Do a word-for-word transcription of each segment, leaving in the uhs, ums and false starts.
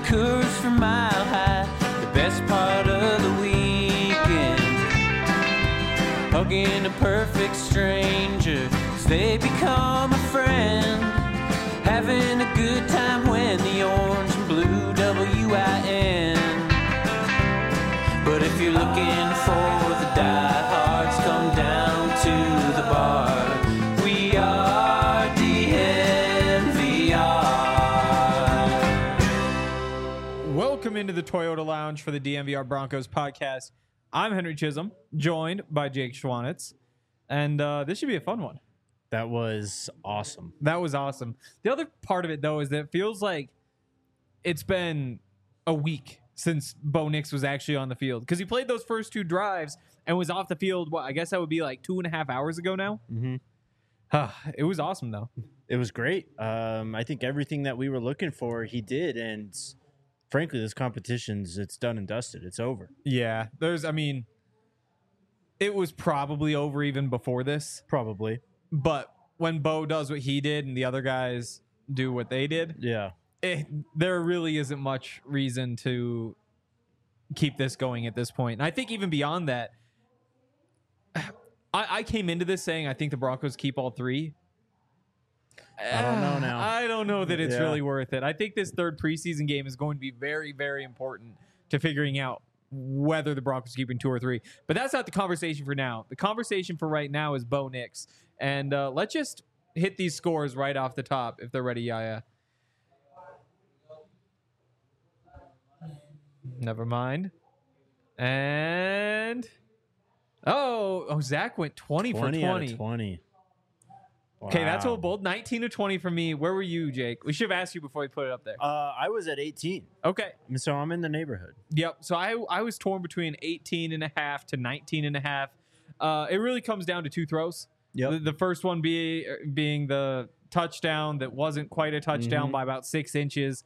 Coors from Mile High, the best part of the weekend. Hugging a perfect stranger as they become a friend. Having a good time when the orange and blue W I N. But if you're looking for the diehards, come down to the bar. We are D N V R. Welcome into the Toyota Lounge for the D N V R Broncos podcast. I'm Henry Chisholm, joined by Jake Schwanitz, and uh, this should be a fun one. That was awesome. That was awesome. The other part of it, though, is that it feels like it's been a week since Bo Nix was actually on the field, because he played those first two drives and was off the field, what, I guess that would be like two and a half hours ago now? Mm-hmm. It was awesome, though. It was great. Um, I think everything that we were looking for, he did, and frankly, this competition's, it's done and dusted. It's over. Yeah, there's, I mean, it was probably over even before this. Probably. But when Bo does what he did and the other guys do what they did, Yeah. it, there really isn't much reason to keep this going at this point. And I think even beyond that, I, I came into this saying I think the Broncos keep all three. I don't know now. I don't know that it's Yeah. really worth it. I think this third preseason game is going to be very, very important to figuring out whether the Broncos are keeping two or three. But that's not the conversation for now. The conversation for right now is Bo Nix. And uh, let's just hit these scores right off the top if they're ready, Yaya. Never mind. And oh, oh, Zach went twenty, twenty for out twenty. of twenty. Okay, that's a Wow. little bold. nineteen to twenty for me. Where were you, Jake? We should have asked you before we put it up there. Uh, I was at eighteen, Okay. so I'm in the neighborhood. Yep. So I I was torn between eighteen and a half to nineteen and a half. Uh, it really comes down to two throws. Yep. The, the first one be, being the touchdown that wasn't quite a touchdown Mhm. by about six inches.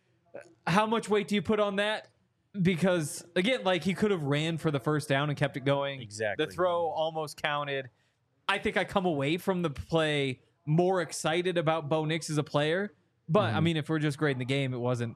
How much weight do you put on that? Because, again, like he could have ran for the first down and kept it going. Exactly. The throw almost counted. I think I come away from the play more excited about Bo Nix as a player. But, I mean, if we're just grading the game, it wasn't.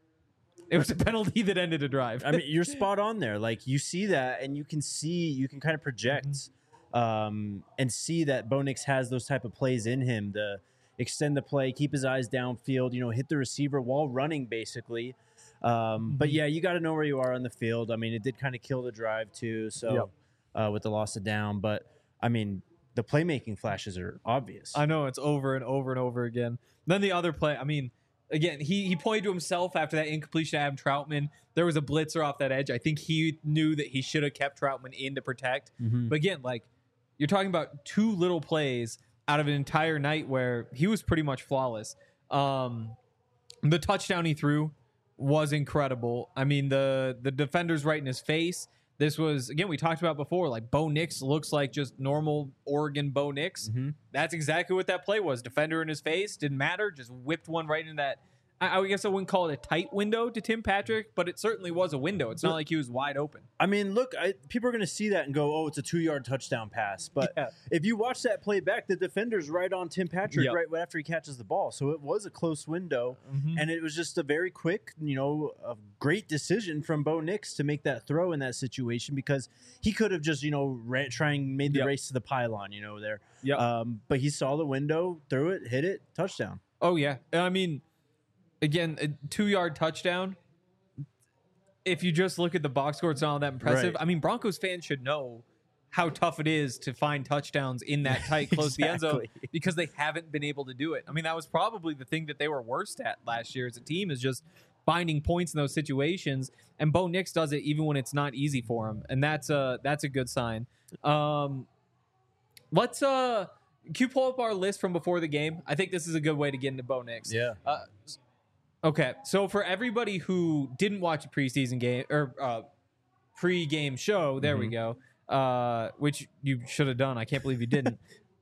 It was a penalty that ended a drive. I mean, you're spot on there. Like, you see that, and you can see, you can kind of project um, and see that Bo Nix has those type of plays in him to extend the play, keep his eyes downfield, you know, hit the receiver while running, basically. Um, But, yeah, you got to know where you are on the field. I mean, it did kind of kill the drive, too, so Yep. uh, with the loss of down. But, I mean, the playmaking flashes are obvious. I know, it's over and over and over again. Then the other play, I mean, again, he he pointed to himself after that incompletion to Adam Troutman. There was a blitzer off that edge. I think he knew that he should have kept Troutman in to protect. Mhm. But again, like, you're talking about two little plays out of an entire night where he was pretty much flawless. Um, the touchdown he threw was incredible. I mean, the the defender's right in his face. This was, again, we talked about before, like Bo Nix looks like just normal Oregon Bo Nix. Mhm. That's exactly what that play was. Defender in his face, didn't matter, just whipped one right into that. I, I guess I wouldn't call it a tight window to Tim Patrick, but it certainly was a window. It's not like he was wide open. I mean, look, I, people are going to see that and go, oh, it's a two-yard touchdown pass. But Yeah. if you watch that play back, the defender's right on Tim Patrick Yep. right after he catches the ball. So it was a close window. And it was just a very quick, you know, a great decision from Bo Nix to make that throw in that situation, because he could have just, you know, ran, trying, made the Yep. race to the pylon, you know, there. Yep. Um, but he saw the window, threw it, hit it, touchdown. Oh, yeah. I mean, again, a two-yard touchdown. If you just look at the box score, it's not all that impressive. Right. I mean, Broncos fans should know how tough it is to find touchdowns in that tight, close to the end zone, Exactly. because they haven't been able to do it. I mean, that was probably the thing that they were worst at last year as a team, is just finding points in those situations. And Bo Nix does it even when it's not easy for him, and that's a that's a good sign. Um, let's uh, can you pull up our list from before the game? I think this is a good way to get into Bo Nix. Yeah. Uh, okay, so for everybody who didn't watch a preseason game or uh, pre-game show, there we go, uh, which you should have done. I can't believe you didn't.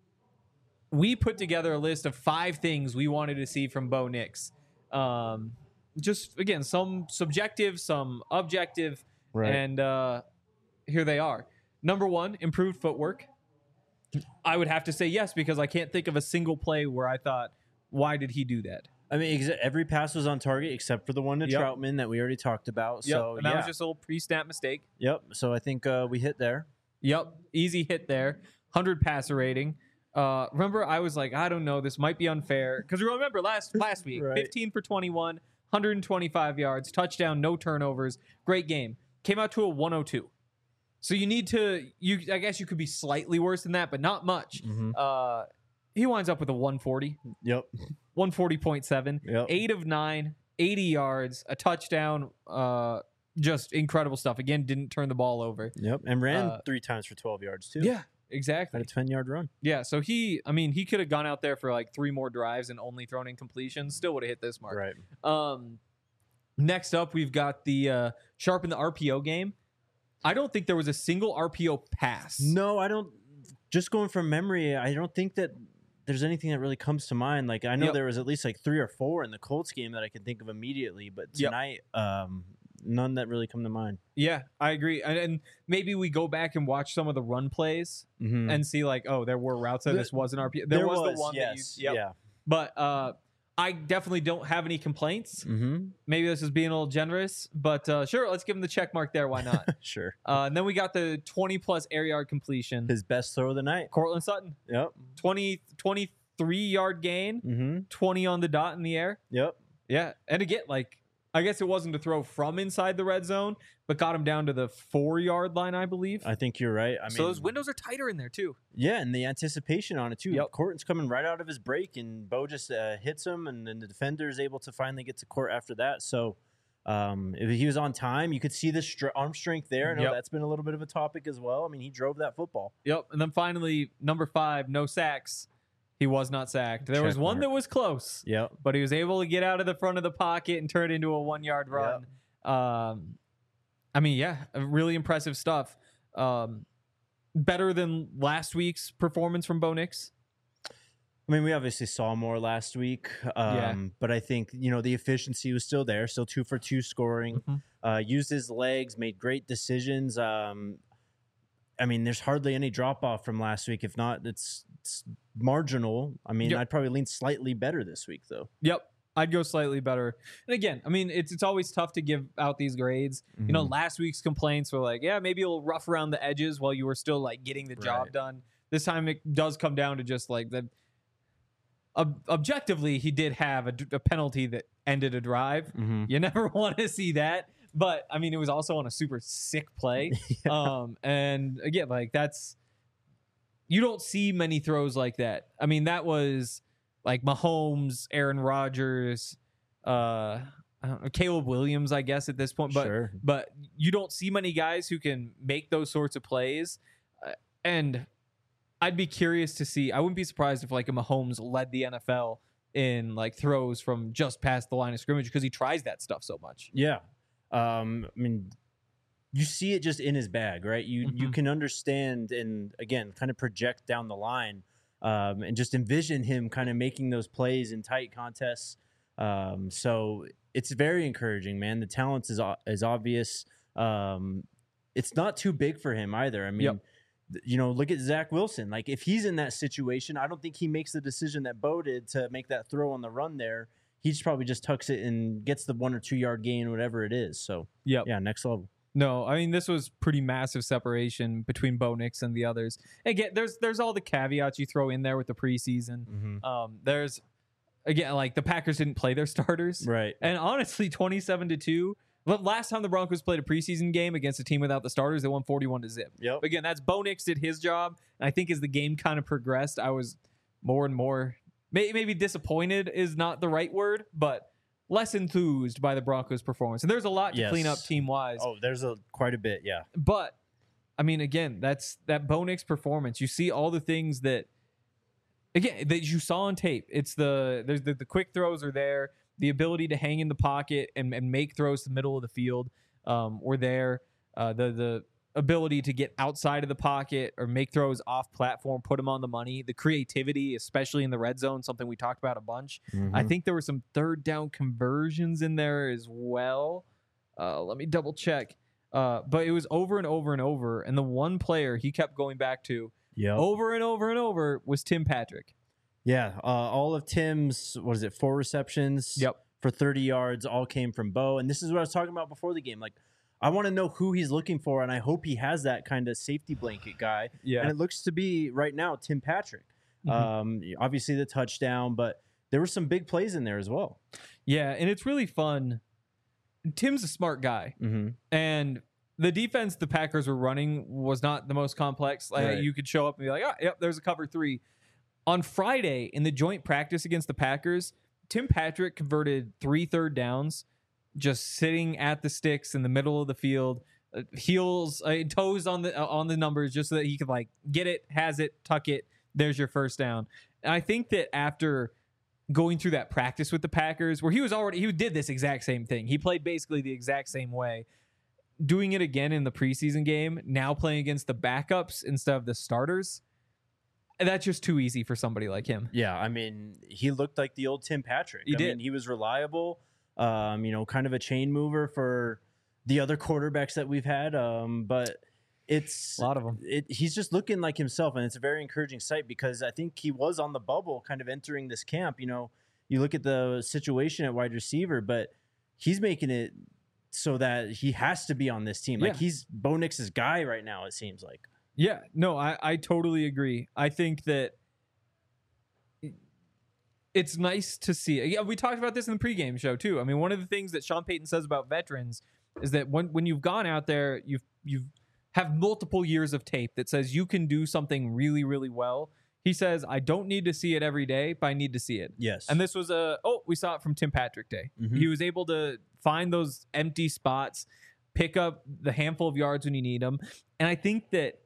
We put together a list of five things we wanted to see from Bo Nix. Um, just, again, some subjective, some objective, Right. and uh, here they are. Number one, improved footwork. I would have to say yes, because I can't think of a single play where I thought, why did he do that? I mean, exa- every pass was on target except for the one to Yep. Troutman that we already talked about. Yep. So and that yeah, was just a little pre-snap mistake. yep. So I think uh, we hit there. Yep, easy hit there. one hundred passer rating. Uh, remember, I was like, I don't know, this might be unfair because remember last last week, Right. fifteen for twenty-one, one hundred twenty-five yards, touchdown, no turnovers, great game. Came out to a one oh two. So you need to, you I guess you could be slightly worse than that, but not much. Mhm. Uh, he winds up with a one forty, Yep. one forty point seven, Yep. eight of nine, eighty yards, a touchdown. Uh, just incredible stuff. Again, didn't turn the ball over. Yep. And ran Uh, three times for twelve yards too. Yeah, exactly. Had a ten yard run. Yeah, so he, I mean, he could have gone out there for like three more drives and only thrown in completions, still would have hit this mark. Right. Um, next up, we've got the uh, sharpen the R P O game. I don't think there was a single R P O pass. No, I don't. Just going from memory, I don't think that there's anything that really comes to mind. Like I know Yep. there was at least like three or four in the Colts game that I can think of immediately, but Yep. tonight, um, none that really come to mind. Yeah, I agree. And, and maybe we go back and watch some of the run plays Mm-hmm. and see like, oh, there were routes that There- this was an R P O. There, was, the one yes, that you, yep. yeah. But uh, I definitely don't have any complaints. Mm-hmm. Maybe this is being a little generous, but uh, sure, let's give him the check mark there. Why not? Sure. Uh, and then we got the twenty plus air yard completion. His best throw of the night. Cortland Sutton, Yep. twenty, twenty-three yard gain, Mm-hmm. twenty on the dot in the air. Yep. Yeah. And again, like, I guess it wasn't to throw from inside the red zone, but got him down to the four yard line, I believe. I think you're right. I mean, so those windows are tighter in there, too. yeah, and the anticipation on it too. Yep. Corton's coming right out of his break, and Bo just uh, hits him, and then the defender is able to finally get to court after that. So, um, if he was on time, you could see the str- arm strength there. I know Yep. that's been a little bit of a topic as well. I mean, he drove that football. Yep. And then finally, number five, no sacks. He was not sacked. There was Check one mark. that was close, Yep. but he was able to get out of the front of the pocket and turn it into a one yard run. Um, I mean, yeah, really impressive stuff. Um, better than last week's performance from Bo Nix. I mean, we obviously saw more last week, um, Yeah. but I think, you know, the efficiency was still there, still two for two scoring. Mhm. Uh, used his legs, made great decisions. Um, I mean, there's hardly any drop off from last week. If not, it's, it's marginal. I mean, Yep. I'd probably lean slightly better this week, though. Yep. I'd go slightly better. And again, I mean, it's it's always tough to give out these grades. You know, Mhm. last week's complaints were like, yeah, maybe a little rough around the edges while you were still like getting the job Right. done. This time it does come down to just like the ob- objectively, he did have a, d- a penalty that ended a drive. Mm-hmm. You never want to see that. But I mean, it was also on a super sick play. Um, and again, like that's you don't see many throws like that. I mean, that was like Mahomes, Aaron Rodgers, uh, I don't know, Caleb Williams, I guess at this point. But Sure. but you don't see many guys who can make those sorts of plays. Uh, and I'd be curious to see. I wouldn't be surprised if like a Mahomes led the N F L in like throws from just past the line of scrimmage because he tries that stuff so much. Yeah. Um, I mean, you see it just in his bag, right? You you Mhm. can understand and again kind of project down the line, um, and just envision him kind of making those plays in tight contests. Um, so it's very encouraging, man. The talent is o- is obvious. Um, it's not too big for him either. I mean, Yep. th- you know, look at Zach Wilson. Like if he's in that situation, I don't think he makes the decision that Bo did to make that throw on the run there. He just probably just tucks it and gets the one or two yard gain, whatever it is. So Yep. yeah, next level. No, I mean this was pretty massive separation between Bo Nix and the others. Again, there's there's all the caveats you throw in there with the preseason. Mm-hmm. Um, there's again like the Packers didn't play their starters, Right. and honestly, twenty-seven to two. Last time the Broncos played a preseason game against a team without the starters, they won forty-one to zip. Yep. Again, that's Bo Nix did his job, and I think as the game kind of progressed, I was more and more may, maybe disappointed is not the right word, but less enthused by the Broncos' performance. And there's a lot to Yes. clean up team wise. Oh, there's a quite a bit. Yeah. But I mean, again, that's that Bo Nix performance. You see all the things that again that you saw on tape. It's the there's the, the quick throws are there, the ability to hang in the pocket and, and make throws to the middle of the field um, were there. Uh, the the ability to get outside of the pocket or make throws off platform, put them on the money. The creativity, especially in the red zone, something we talked about a bunch. I think there were some third down conversions in there as well. Uh, let me double check. Uh, but it was over and over and over. And the one player he kept going back to yeah. over and over and over was Tim Patrick. Yeah, uh, all of Tim's, what is it, four receptions Yep. for thirty yards all came from Bo. And this is what I was talking about before the game. Like, I want to know who he's looking for, and I hope he has that kind of safety blanket guy. Yeah. And it looks to be, right now, Tim Patrick. Mhm. Um, obviously, the touchdown, but there were some big plays in there as well. Yeah, and it's really fun. Tim's a smart guy. Mm-hmm. And the defense the Packers were running was not the most complex. Like Right. you could show up and be like, oh, yep, there's a cover three. On Friday, in the joint practice against the Packers, Tim Patrick converted three third downs, just sitting at the sticks in the middle of the field, uh, heels, uh, toes on the uh, on the numbers, just so that he could like get it, has it, tuck it. There's your first down. And I think that after going through that practice with the Packers, where he was already he did this exact same thing. He played basically the exact same way. Doing it again in the preseason game, now playing against the backups instead of the starters. That's just too easy for somebody like him. Yeah, I mean, he looked like the old Tim Patrick. He I did. mean, he was reliable, um, you know, kind of a chain mover for the other quarterbacks that we've had. Um, but it's A lot of them. It, he's just looking like himself, and it's a very encouraging sight because I think he was on the bubble kind of entering this camp. You know, you look at the situation at wide receiver, but he's making it so that he has to be on this team. Like Yeah. he's Bo Nix's guy right now, it seems like. Yeah, no, I, I totally agree. I think that it's nice to see. Yeah, we talked about this in the pregame show too. I mean, one of the things that Sean Payton says about veterans is that when when you've gone out there, you've you've have multiple years of tape that says you can do something really, really well. He says, I don't need to see it every day, but I need to see it. Yes. And this was a, oh, we saw it from Tim Patrick Day. Mhm. He was able to find those empty spots, pick up the handful of yards when you need them. And I think that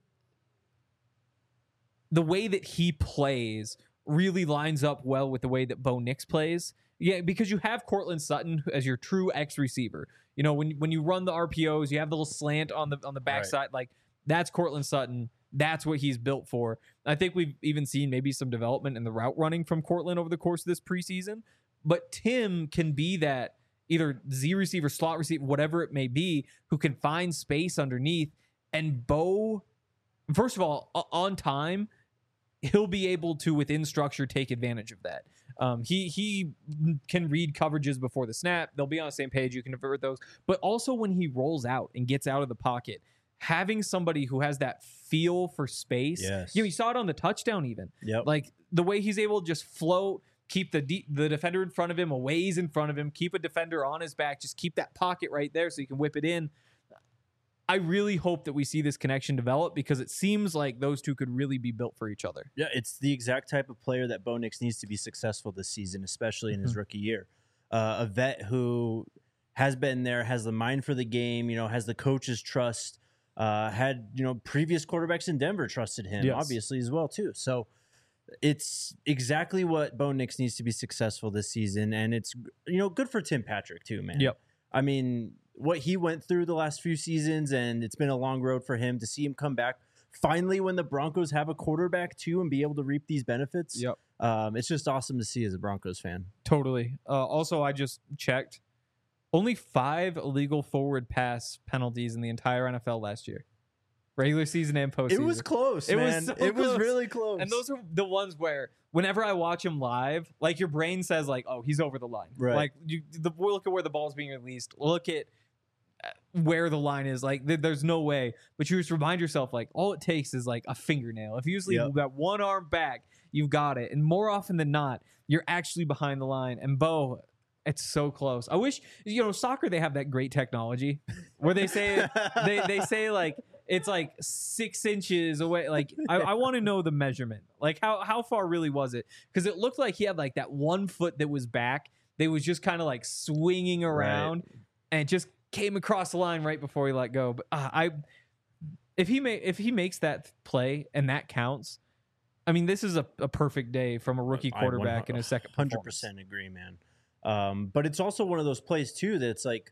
the way that he plays really lines up well with the way that Bo Nix plays. Yeah, because you have Cortland Sutton as your true X receiver. You know, when when you run the R P Os, you have the little slant on the on the backside. Right. Like that's Cortland Sutton. That's what he's built for. I think we've even seen maybe some development in the route running from Cortland over the course of this preseason. But Tim can be that either Z receiver, slot receiver, whatever it may be, who can find space underneath. And Bo, first of all, on time, he'll be able to, within structure, take advantage of that. Um, he he can read coverages before the snap. They'll be on the same page. You can convert those. But also when he rolls out and gets out of the pocket, having somebody who has that feel for space. Yes. You know, you saw it on the touchdown even. Yep. Like the way he's able to just float, keep the de- the defender in front of him, a ways in front of him, keep a defender on his back, just keep that pocket right there so you can whip it in. I really hope that we see this connection develop because it seems like those two could really be built for each other. Yeah, it's the exact type of player that Bo Nix needs to be successful this season, especially in his Mhm. rookie year. Uh, a vet who has been there, has the mind for the game, you know, has the coach's trust, uh, had, you know, previous quarterbacks in Denver trusted him, Yes. obviously, as well, too. So it's exactly what Bo Nix needs to be successful this season. And it's, you know, good for Tim Patrick, too, man. Yep. I mean, what he went through the last few seasons, and it's been a long road for him to see him come back finally when the Broncos have a quarterback too and be able to reap these benefits. Yep. Um, it's just awesome to see as a Broncos fan. Totally. Uh, also, I just checked. Only five illegal forward pass penalties in the entire N F L last year. Regular season and postseason. It was close, It was man. so it was close. really close. And those are the ones where whenever I watch him live, like your brain says like, oh, he's over the line. Right. Like you the, look at where the ball's being released. Look at where the line is. Like th- there's no way. But you just remind yourself like all it takes is like a fingernail. If you just leave Yep. that one arm back, you've got it. And more often than not, you're actually behind the line. And Bo, it's so close. I wish, you know, soccer, they have that great technology where they say, they, they say like, it's like six inches away. Like, I, I want to know the measurement. Like, how, how far really was it? Because it looked like he had like that one foot that was back. They was just kind of like swinging around and it just came across the line right before he let go. But uh, I, if he may, if he makes that play and that counts, I mean, this is a, a perfect day from a rookie I quarterback in his second one hundred performance. percent agree, man. Um, but it's also one of those plays too that's like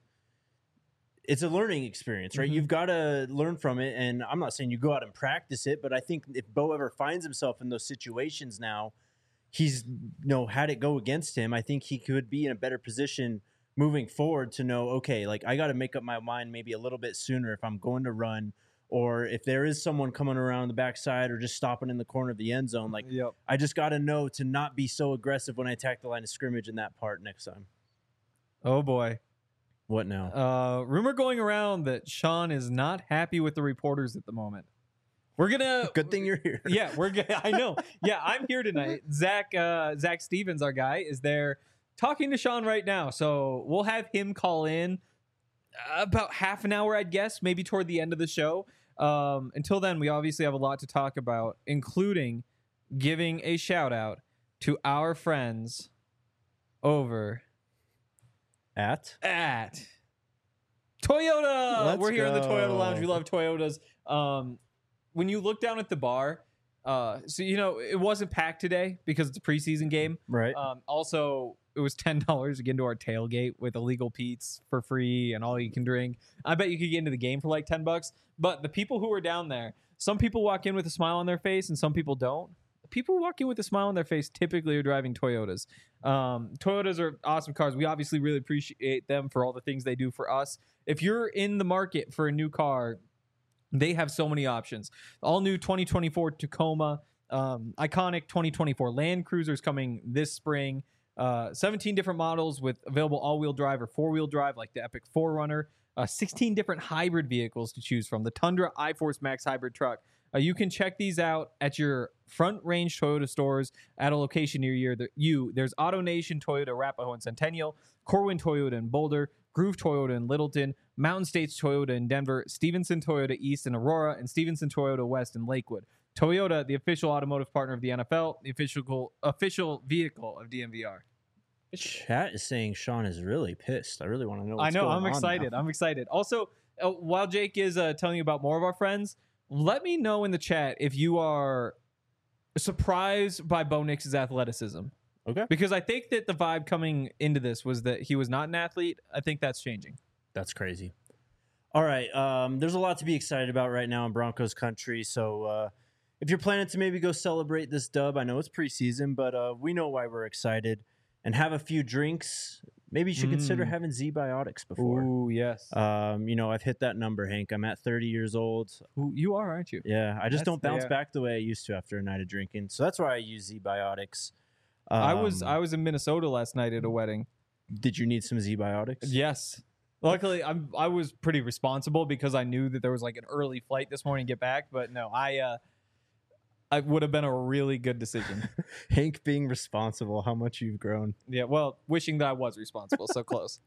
it's a learning experience, right? Mhm. You've got to learn from it, and I'm not saying you go out and practice it, but I think if Bo ever finds himself in those situations now, he's you know had it go against him. I think he could be in a better position moving forward to know, okay, like I got to make up my mind maybe a little bit sooner if I'm going to run or if there is someone coming around the backside or just stopping in the corner of the end zone, like Yep. I just got to know to not be so aggressive when I attack the line of scrimmage in that part next time. Oh boy. What now? Uh, rumor going around that Sean is not happy with the reporters at the moment. We're gonna. Good thing you're here. Yeah, we're. G- I know. Yeah, I'm here tonight. Zach. Uh, Zach Stevens, our guy, is there talking to Sean right now. So we'll have him call in about half an hour, I'd guess, maybe toward the end of the show. Um, until then, we obviously have a lot to talk about, including giving a shout out to our friends over At? at Toyota. Let's We're here in the Toyota go. Lounge. We love Toyotas. Um, when you look down at the bar, uh, so you know it wasn't packed today because it's a preseason game. Right. Um, also, it was ten dollars to get into our tailgate with illegal Pete's for free and all you can drink. I bet you could get into the game for like ten bucks. But the people who are down there, some people walk in with a smile on their face and some people don't. The people who walk in with a smile on their face typically are driving Toyotas. Um, Toyotas are awesome cars. We obviously really appreciate them for all the things they do for us. If you're in the market for a new car, they have so many options. All new twenty twenty-four Tacoma, um, iconic twenty twenty-four Land Cruisers coming this spring. Uh, seventeen different models with available all-wheel drive or four-wheel drive, like the Epic four runner. Uh, sixteen different hybrid vehicles to choose from. The Tundra iForce Max hybrid truck. Uh, you can check these out at your Front Range Toyota stores at a location near you. There- you. There's Auto Nation Toyota Arapahoe and Centennial, Corwin Toyota in Boulder, Groove Toyota in Littleton, Mountain States Toyota in Denver, Stevenson Toyota East in Aurora, and Stevenson Toyota West in Lakewood. Toyota, the official automotive partner of the N F L, the official official vehicle of D M V R. Chat is saying Sean is really pissed. I really want to know I what's know. going I'm on excited. now. I'm excited. Also, uh, while Jake is uh, telling you about more of our friends, let me know in the chat if you are surprised by Bo Nix's athleticism. Okay. Because I think that the vibe coming into this was that he was not an athlete. I think that's changing. That's crazy. All right. Um, there's a lot to be excited about right now in Broncos country. So uh, if you're planning to maybe go celebrate this dub, I know it's preseason, but uh, we know why we're excited. And have a few drinks. Maybe you should consider Mm. having Z-Biotics before. Ooh, yes. Um, you know, I've hit that number, Hank. I'm at thirty years old. Ooh, you are, aren't you? Yeah, I just That's don't the- bounce yeah. back the way I used to after a night of drinking. So that's why I use Z-Biotics. I was Um, I was in Minnesota last night at a wedding. Did you need some Z-Biotics? Yes. Luckily, I'm I was pretty responsible because I knew that there was like an early flight this morning to get back. But no, I uh, I would have been a really good decision. Hank being responsible, how much you've grown. Yeah, well, wishing that I was responsible. So close.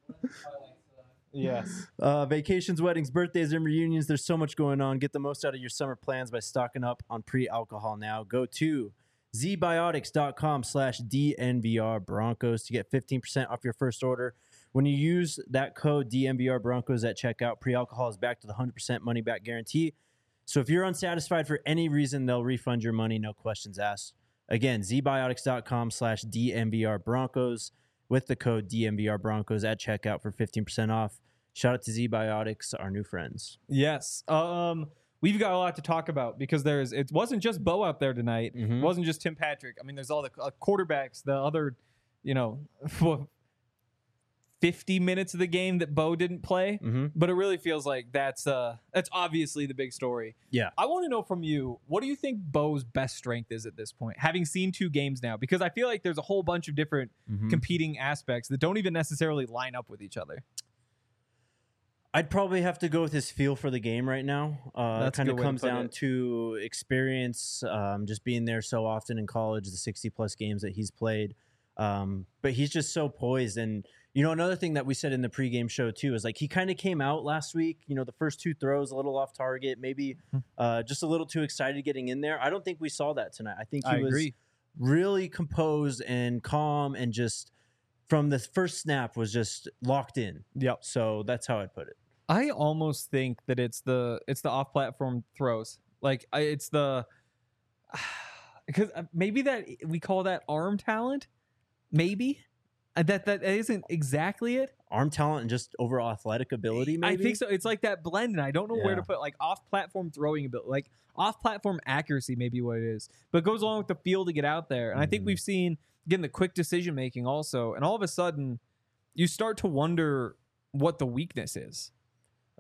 Yes. Uh, vacations, weddings, birthdays, and reunions. There's so much going on. Get the most out of your summer plans by stocking up on pre-alcohol now. Go to zbiotics.com slash DNVR Broncos to get fifteen percent off your first order. When you use that code D N V R Broncos at checkout, pre-alcohol is back to the one hundred percent money back guarantee. So if you're unsatisfied for any reason, they'll refund your money, no questions asked. Again, zbiotics.com slash DNVR Broncos with the code D N V R Broncos at checkout for fifteen percent off. Shout out to Z-Biotics, our new friends. Yes. Um, we've got a lot to talk about because there's it wasn't just Bo out there tonight. Mhm. It wasn't just Tim Patrick. I mean, there's all the uh, quarterbacks, the other, you know, fifty minutes of the game that Bo didn't play. Mm-hmm. But it really feels like that's uh that's obviously the big story. Yeah. I want to know from you, what do you think Bo's best strength is at this point, having seen two games now? Because I feel like there's a whole bunch of different Mm-hmm. competing aspects that don't even necessarily line up with each other. I'd probably have to go with his feel for the game right now. Uh, That's a kind of good way to comes put down it. to experience, um, just being there so often in college, the sixty plus games that he's played. Um, but he's just so poised. And, you know, another thing that we said in the pregame show too is like he kind of came out last week, you know, the first two throws a little off target, maybe uh, just a little too excited getting in there. I don't think we saw that tonight. I think he I was agree. really composed and calm and just from the first snap was just locked in. Yep. So that's how I'd put it. I almost think that it's the it's the off-platform throws. Like I, it's the because maybe that we call that arm talent. Maybe Uh, that that isn't exactly it. Arm talent and just overall athletic ability, maybe? I think so. It's like that blend, and I don't know where to Yeah. put like off-platform throwing ability, like off-platform accuracy, maybe what it is, but it goes along with the feel to get out there. And I think Mhm. we've seen again the quick decision making also, and all of a sudden you start to wonder what the weakness is.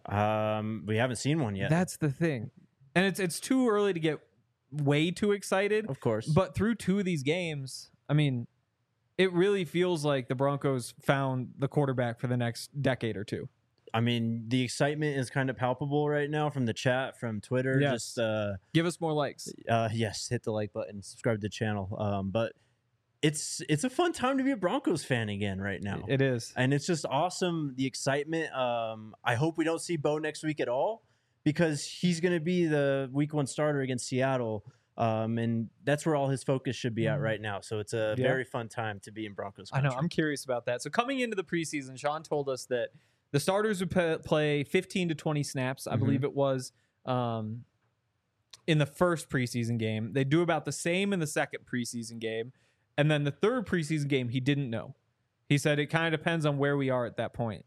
Um, we haven't seen one yet. That's the thing. And it's it's too early to get way too excited. Of course. But through two of these games, I mean, it really feels like the Broncos found the quarterback for the next decade or two. I mean, the excitement is kind of palpable right now from the chat, from Twitter. Yes. Just uh, Give us more likes. uh, yes, hit the like button, subscribe to the channel. Um, but it's it's a fun time to be a Broncos fan again right now. It is. And it's just awesome, the excitement. Um, I hope we don't see Bo next week at all, because he's going to be the week one starter against Seattle. Um, and that's where all his focus should be at right now. So it's a Yeah. very fun time to be in Broncos I country. know. I'm curious about that. So coming into the preseason, Sean told us that the starters would p- play fifteen to twenty snaps, I Mhm. believe it was, um, in the first preseason game. They do about the same in the second preseason game. And then the third preseason game, he didn't know. He said it kind of depends on where we are at that point.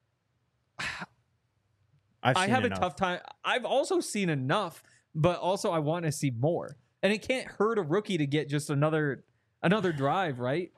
I've I seen have enough. a tough time. I've also seen enough, but also I want to see more. And it can't hurt a rookie to get just another another drive, right?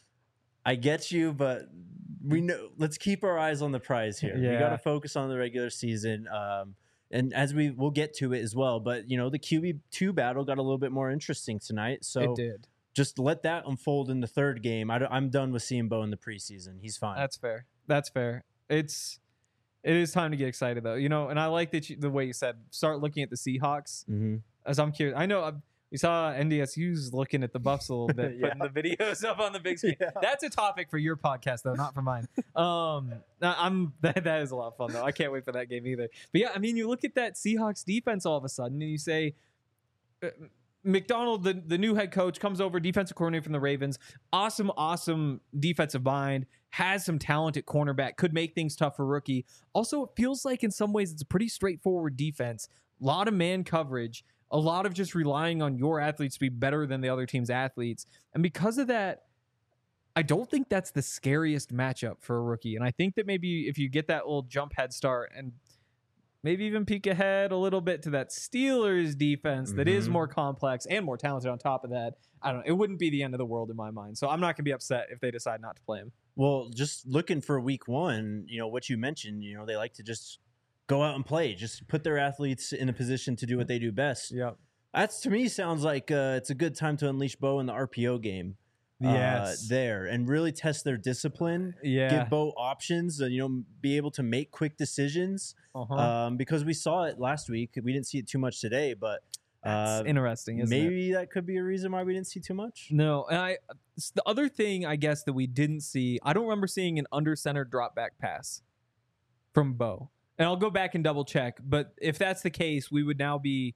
I get you, but we know. Let's keep our eyes on the prize here. We Yeah. got to focus on the regular season, um, and as we we'll get to it as well. But you know, the Q B two battle got a little bit more interesting tonight. So It did. just let that unfold in the third game. I, am done with seeing Bo in the preseason. He's fine. That's fair. That's fair. It's it is time to get excited though, you know. And I like that you, the way you said start looking at the Seahawks. mm-hmm. As I'm curious, I know. I, we saw N D S U's looking at the Buffs a little bit, Yeah. putting the videos up on the big screen. Yeah. That's a topic for your podcast, though, not for mine. Um, I- I'm that that is a lot of fun though. I can't wait for that game either. But yeah, I mean, you look at that Seahawks defense all of a sudden, and you say, uh, McDonald, the the new head coach, comes over, defensive coordinator from the Ravens, awesome, awesome defensive mind, has some talent at cornerback, could make things tough for rookie. Also, it feels like in some ways it's a pretty straightforward defense, a lot of man coverage. A lot of just relying on your athletes to be better than the other team's athletes. And because of that, I don't think that's the scariest matchup for a rookie. And I think that maybe if you get that little jump head start and maybe even peek ahead a little bit to that Steelers defense that is Mhm. more complex and more talented on top of that, I don't know. It wouldn't be the end of the world in my mind. So I'm not going to be upset if they decide not to play him. Well, just looking for week one, you know, what you mentioned, you know, they like to just go out and play, just put their athletes in a position to do what they do best. Yeah. That's, to me, sounds like uh, it's a good time to unleash Bo in the R P O game. uh, Yes. there and really test their discipline. Yeah. Give Bo options, and you know, be able to make quick decisions. Uh-huh. Um, because we saw it last week. We didn't see it too much today, but That's uh, interesting, isn't it? maybe that could be a reason why we didn't see too much. No, and I s- the other thing I guess that we didn't see, I don't remember seeing an under center drop back pass from Bo. And I'll go back and double check, but if that's the case, we would now be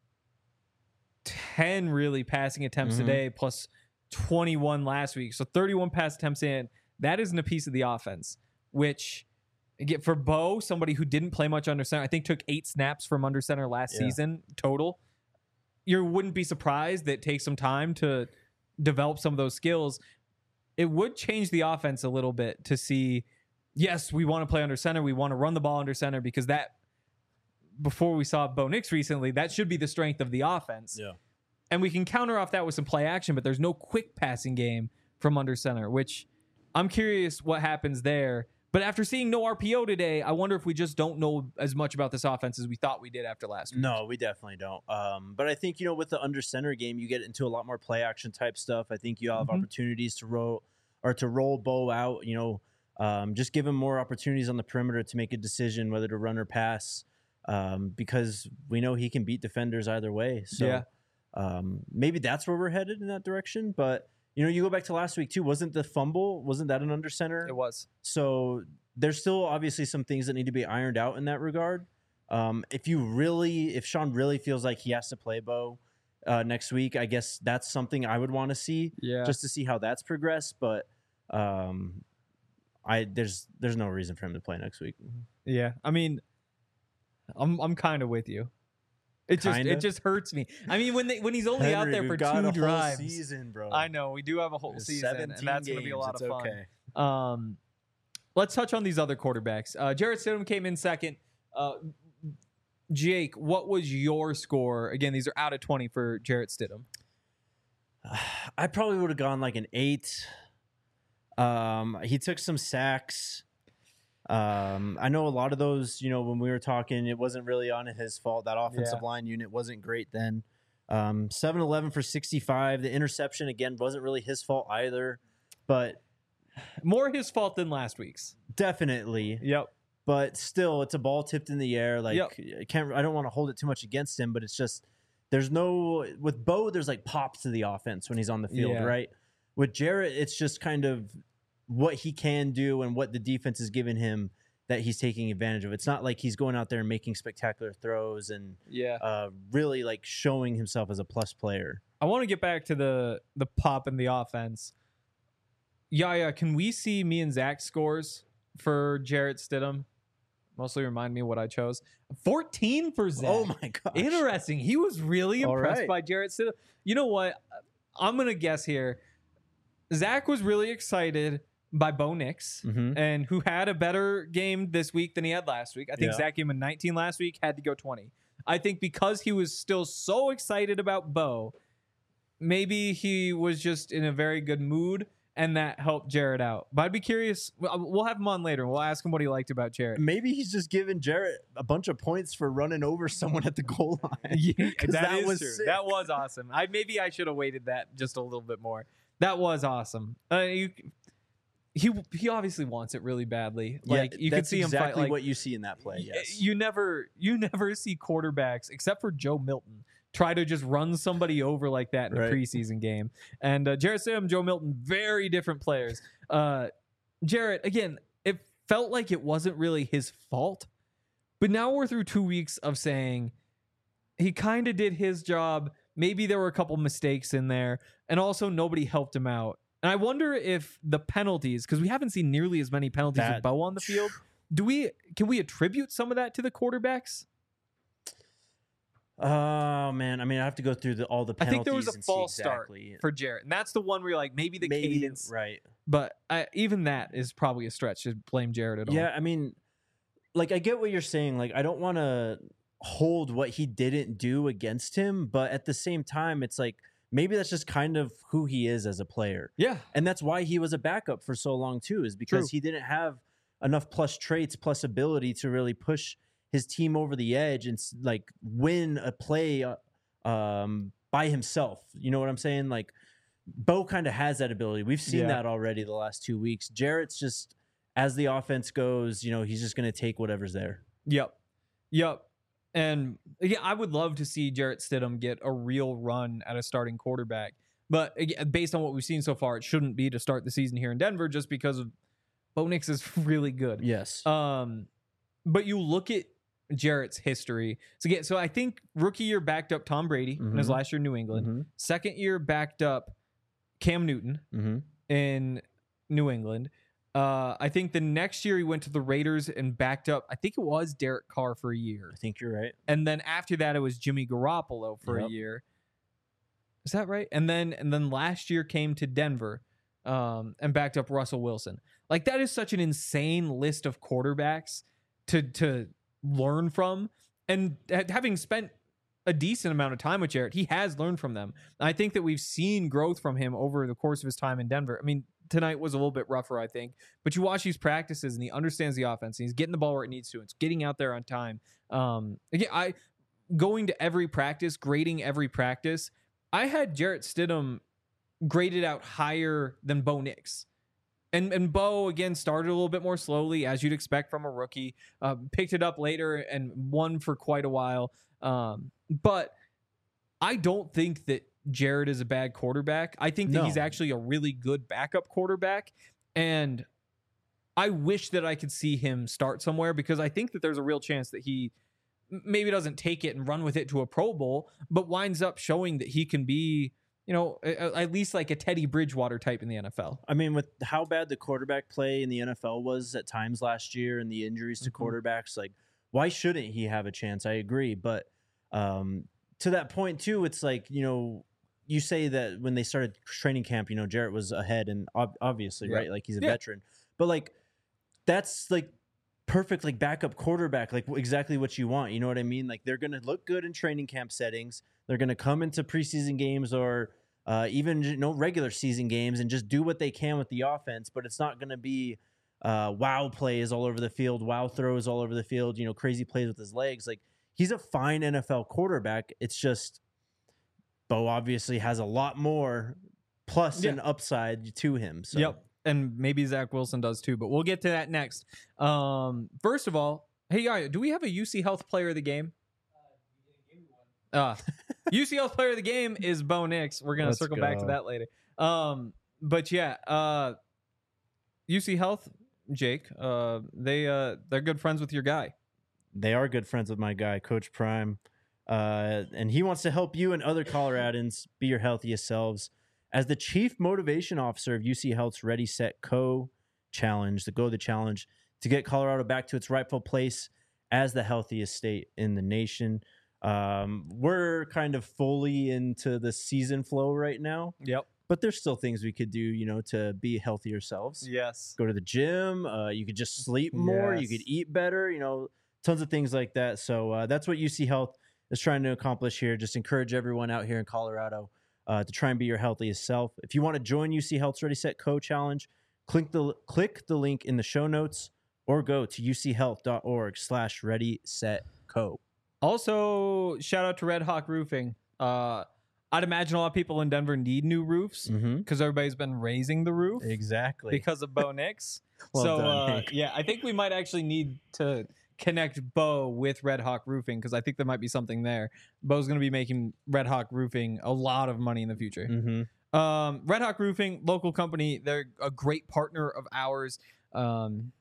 ten really passing attempts Mhm. today plus twenty-one last week. So thirty-one pass attempts in. That isn't a piece of the offense, which again, for Bo, somebody who didn't play much under center, I think took eight snaps from under center last Yeah. season total. You wouldn't be surprised that it takes some time to develop some of those skills. It would change the offense a little bit to see, yes, we want to play under center. We want to run the ball under center because that, before we saw Bo Nix recently, that should be the strength of the offense. Yeah. And we can counter off that with some play action, but there's no quick passing game from under center, which I'm curious what happens there. But after seeing no R P O today, I wonder if we just don't know as much about this offense as we thought we did after last week. No, we definitely don't. Um, but I think, you know, with the under center game, you get into a lot more play action type stuff. I think you have Mhm. opportunities to roll or to roll Bo out, you know, um, just give him more opportunities on the perimeter to make a decision whether to run or pass, um, because we know he can beat defenders either way. So Yeah. um, maybe that's where we're headed in that direction. But, you know, you go back to last week too. Wasn't the fumble, wasn't that an under center? It was. So there's still obviously some things that need to be ironed out in that regard. Um, if you really, if Sean really feels like he has to play Bo uh, next week, I guess that's something I would want to see Yeah. just to see how that's progressed. But um, I there's there's no reason for him to play next week. Yeah, I mean, I'm I'm kind of with you. It just Kinda? it just hurts me. I mean, when they when he's only out Henry, there we've for got a two whole drives, season, bro. I know we do have a whole There's season, and seventeen that's going to be a games. lot It's of fun. okay. Um, let's touch on these other quarterbacks. Uh, Jarrett Stidham came in second. Uh, Jake, what was your score? Again, these are out of twenty for Jarrett Stidham. I probably would have gone like an eight. Um, he took some sacks. Um, I know a lot of those, you know, when we were talking, it wasn't really on his fault. That offensive Yeah. line unit wasn't great then. Um, seven eleven for sixty-five. The interception, again, wasn't really his fault either. But More his fault than last week's. definitely. Yep. But still, it's a ball tipped in the air. Like, Yep. I can't, I don't want to hold it too much against him, but it's just, there's no, with Bo, there's like pops to the offense when he's on the field, Yeah. right? With Jarrett, it's just kind of what he can do and what the defense has given him that he's taking advantage of. It's not like he's going out there and making spectacular throws and Yeah. uh, really like showing himself as a plus player. I want to get back to the the pop in the offense. Yeah, yeah. Can we see me and Zach scores for Jarrett Stidham? Mostly remind me what I chose. fourteen for Zach. Oh my gosh. Interesting. He was really All impressed right. by Jarrett Stidham. You know what? I'm gonna guess here. Zach was really excited by Bo Nix, Mhm. and who had a better game this week than he had last week. I think Yeah. Zach gave him a nineteen last week, had to go twenty. I think because he was still so excited about Bo, maybe he was just in a very good mood, and that helped Jarrett out. But I'd be curious. We'll we'll have him on later, and we'll ask him what he liked about Jarrett. Maybe he's just giving Jarrett a bunch of points for running over someone at the goal line. Yeah, 'Cause that, that is was true. sick. That was awesome. I maybe I should have waited that just a little bit more. That was awesome. Uh, you, he he obviously wants it really badly. Like Yeah, you could that's see him exactly fight. Like what you see in that play. y- Yes. you never you never see quarterbacks except for Joe Milton try to just run somebody over like that in Right. a preseason game. And uh, Jarrett Stidham, Joe Milton, very different players. Uh, Jarrett, again, it felt like it wasn't really his fault, but now we're through two weeks of saying he kind of did his job. Maybe there were a couple mistakes in there, and also nobody helped him out. And I wonder if the penalties, because we haven't seen nearly as many penalties That- with Bo on the field, do we can we attribute some of that to the quarterbacks? Oh man, I mean, I have to go through the, all the I penalties. think there was a and see false exactly. start for Jarrett, and that's the one where you're like maybe the Maybe, cadence, right? but I, even that is probably a stretch to blame Jarrett at all. Yeah, I mean, like I get what you're saying. Like I don't want to hold what he didn't do against him, but at the same time, it's like maybe that's just kind of who he is as a player, yeah, and that's why he was a backup for so long too. Is because True. he didn't have enough plus traits, plus ability to really push his team over the edge and s- like win a play uh, um, by himself. You know what I'm saying? Like Bo kind of has that ability. We've seen Yeah. that already the last two weeks. Jarrett's just as the offense goes, you know, he's just going to take whatever's there. Yep. Yep. And yeah, I would love to see Jarrett Stidham get a real run at a starting quarterback. But again, based on what we've seen so far, it shouldn't be to start the season here in Denver just because of Bo Nix is really good. Yes. Um, but you look at Jarrett's history. So again, so I think rookie year backed up Tom Brady in his Mhm. last year in New England. Mm-hmm. Second year backed up Cam Newton Mm-hmm. in New England. Uh, I think the next year he went to the Raiders and backed up, I think it was Derek Carr for a year. I think you're right. And then after that, it was Jimmy Garoppolo for Yep. a year. Is that right? And then and then last year came to Denver um, and backed up Russell Wilson. Like that is such an insane list of quarterbacks to to learn from. And ha- having spent a decent amount of time with Jarrett, he has learned from them. I think that we've seen growth from him over the course of his time in Denver. I mean, tonight was a little bit rougher, I think, but you watch these practices and he understands the offense. And he's getting the ball where it needs to. It's getting out there on time. Um, again, I going to every practice, grading every practice. I had Jarrett Stidham graded out higher than Bo Nix. And and Bo, again, started a little bit more slowly, as you'd expect from a rookie. Uh, picked it up later and won for quite a while. Um, but I don't think that Jarrett is a bad quarterback. I think that No. he's actually a really good backup quarterback. And I wish that I could see him start somewhere because I think that there's a real chance that he m- maybe doesn't take it and run with it to a Pro Bowl, but winds up showing that he can be, you know, a- a- at least like a Teddy Bridgewater type in the N F L. I mean, with how bad the quarterback play in the N F L was at times last year and the injuries to Mhm. quarterbacks, like, why shouldn't he have a chance? I agree. But um, to that point, too, it's like, you know, you say that when they started training camp, you know, Jarrett was ahead and ob- obviously, Yeah. right? Like, he's a Yeah. veteran. But, like, that's, like, perfect, like, backup quarterback, like, exactly what you want. You know what I mean? Like, they're going to look good in training camp settings. They're going to come into preseason games or uh, even, you know, regular season games and just do what they can with the offense. But it's not going to be uh, wow plays all over the field, wow throws all over the field, you know, crazy plays with his legs. Like, he's a fine N F L quarterback. It's just Bo obviously has a lot more plus Yeah. and upside to him. So. Yep. And maybe Zach Wilson does too, but we'll get to that next. Um, first of all, hey, yeah, do we have a U C Health Player of the Game? Uh, U C Health Player of the Game is Bo Nix. We're going to Let's circle back to go. that later. Um, but yeah, uh, U C Health, Jake, uh, they, uh, they're good friends with your guy. They are good friends with my guy, Coach Prime. Uh, and he wants to help you and other Coloradans be your healthiest selves. As the chief motivation officer of U C Health's Ready, Set, Co challenge, the Go the Challenge, to get Colorado back to its rightful place as the healthiest state in the nation. Um, we're kind of fully into the season flow right now, Yep. but there's still things we could do, you know, to be healthier selves. Yes. Go to the gym. Uh, you could just sleep more. You Yes. could eat better. You know, tons of things like that. So uh, that's what U C Health is trying to accomplish here. Just encourage everyone out here in Colorado uh, to try and be your healthiest self. If you want to join U C Health's Ready, Set, Co challenge, click the click the link in the show notes or go to uchealth.org slash ready, set, co. Also, shout out to Red Hawk Roofing. Uh, I'd imagine a lot of people in Denver need new roofs Mm-hmm. because everybody's been raising the roof Exactly. because of Bo Nix. Well so, done, uh, Hank. yeah, I think we might actually need to connect Bo with Red Hawk Roofing because I think there might be something there. Bo's going to be making Red Hawk Roofing a lot of money in the future. Mm-hmm. Um, Red Hawk Roofing, local company, they're a great partner of ours. Um,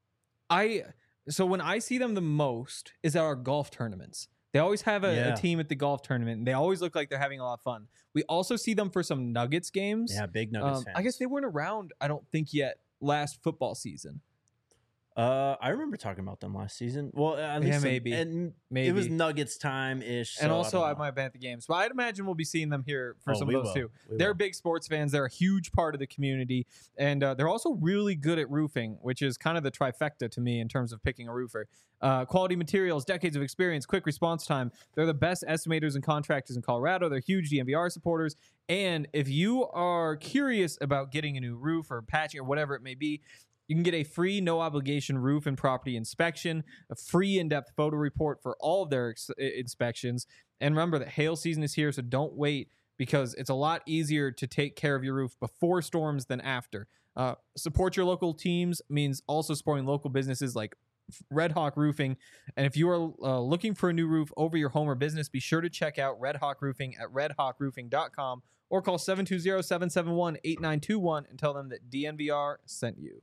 I so when I see them the most is at our golf tournaments. They always have a, Yeah. a team at the golf tournament, and they always look like they're having a lot of fun. We also see them for some Nuggets games. Yeah, big Nuggets Um, fans. I guess they weren't around, I don't think, yet last football season. Uh, I remember talking about them last season. Well, at Yeah, least some- maybe. and Maybe. it was Nuggets time ish. and also, I, might have been at the games. But I'd imagine we'll be seeing them here for Oh, some we of those will. too. We They're will. big sports fans. They're a huge part of the community. And uh, they're also really good at roofing, which is kind of the trifecta to me in terms of picking a roofer. Uh, quality materials, decades of experience, quick response time. They're the best estimators and contractors in Colorado. They're huge D N V R supporters. And if you are curious about getting a new roof or patching or whatever it may be, you can get a free, no obligation roof and property inspection, a free in-depth photo report for all of their ex- inspections. And remember that hail season is here, so don't wait because it's a lot easier to take care of your roof before storms than after. Uh, support your local teams means also supporting local businesses like Red Hawk Roofing. And if you are uh, looking for a new roof over your home or business, be sure to check out Red Hawk Roofing at red hawk roofing dot com or call seven two zero, seven seven one, eight nine two one and tell them that D N V R sent you.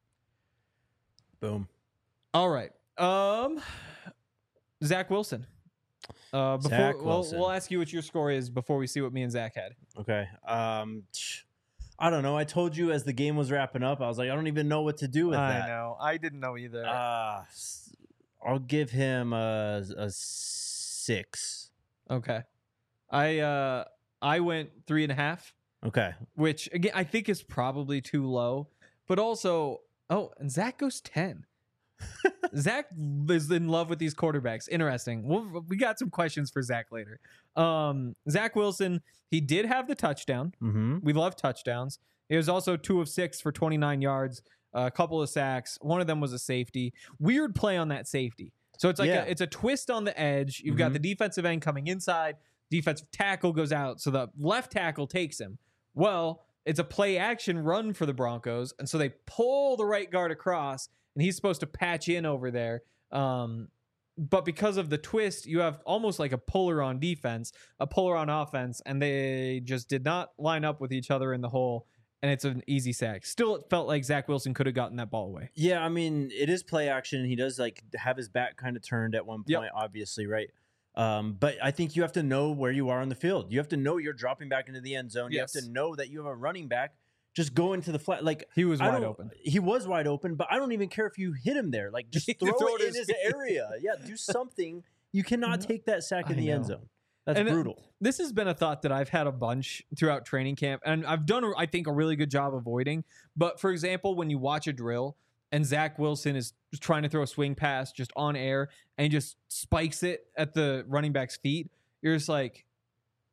Boom. All right. Um, Zach Wilson. Uh, before Zach we'll, Wilson. we'll ask you what your score is before we see what me and Zach had. Okay. Um, I don't know. I told you as the game was wrapping up, I was like, I don't even know what to do with that. know. I didn't know either. Uh, s- I'll give him a, a six. okay. I uh I went three and a half, Okay. which again I think is probably too low. But also, oh, and Zach goes ten. Zach is in love with these quarterbacks. Interesting. We'll, we got some questions for Zach later. Um, Zach Wilson, he did have the touchdown. Mm-hmm. We love touchdowns. It was also two of six for twenty-nine yards, a couple of sacks. One of them was a safety. Weird play on that safety. So it's like Yeah. a, it's a twist on the edge. You've got Mhm. the defensive end coming inside. Defensive tackle goes out, so the left tackle takes him. Well, it's a play action run for the Broncos, and so they pull the right guard across, and he's supposed to patch in over there. Um, but because of the twist, you have almost like a puller on defense, a puller on offense, and they just did not line up with each other in the hole, and it's an easy sack. Still, it felt like Zach Wilson could have gotten that ball away. Yeah, I mean, it is play action. He does like have his back kind of turned at one point, Yep. obviously, right? Um, but I think you have to know where you are on the field. You have to know you're dropping back into the end zone. You Yes. have to know that you have a running back just go into the flat. Like He was I wide don't- open. He was wide open, but I don't even care if you hit him there. Like just throw, Throw it it in his his feet. area. Yeah, do something. You cannot take that sack in I the end know. zone. That's And it- brutal. This has been a thought that I've had a bunch throughout training camp, and I've done, I think, a really good job avoiding. But for example, when you watch a drill and Zach Wilson is just trying to throw a swing pass just on air and he just spikes it at the running back's feet, you're just like,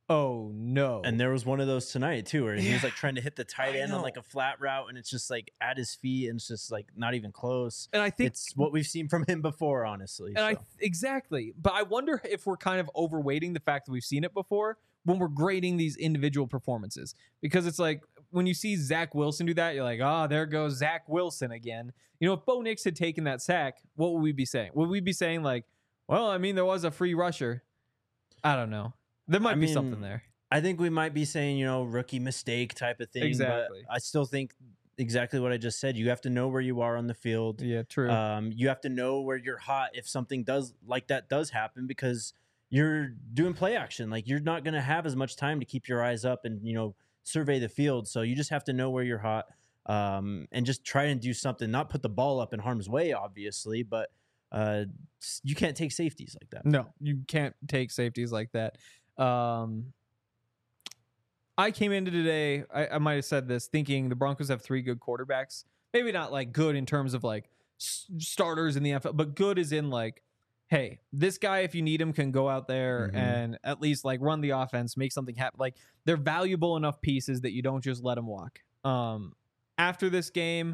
Oh no. And there was one of those tonight too, where he was Yeah. like trying to hit the tight I end on know. like a flat route, and it's just like at his feet, and it's just like not even close. and I think It's what we've seen from him before, honestly. And I so. exactly, but I wonder if we're kind of overweighting the fact that we've seen it before when we're grading these individual performances, because it's like when you see Zach Wilson do that, you're like, oh, there goes Zach Wilson again. You know, if Bo Nix had taken that sack, what would we be saying? Would we be saying like, well, I mean, there was a free rusher? I don't know. There might I be mean, something there. I think we might be saying, you know, rookie mistake type of thing. Exactly. But I still think exactly what I just said. You have to know where you are on the field. Yeah, true. Um, you have to know where you're hot if something does like that does happen, because you're doing play action. Like, you're not going to have as much time to keep your eyes up and, you know, survey the field. So you just have to know where you're hot, um, and just try and do something. Not put the ball up in harm's way, obviously, but uh, you can't take safeties like that. No, you can't take safeties like that. Um, I came into today, I, I might have said this, thinking the Broncos have three good quarterbacks. Maybe not like good in terms of like s- starters in the N F L, but good as in like, hey, this guy, if you need him, can go out there Mhm. and at least like run the offense, make something happen. Like, they're valuable enough pieces that you don't just let them walk. Um, after this game,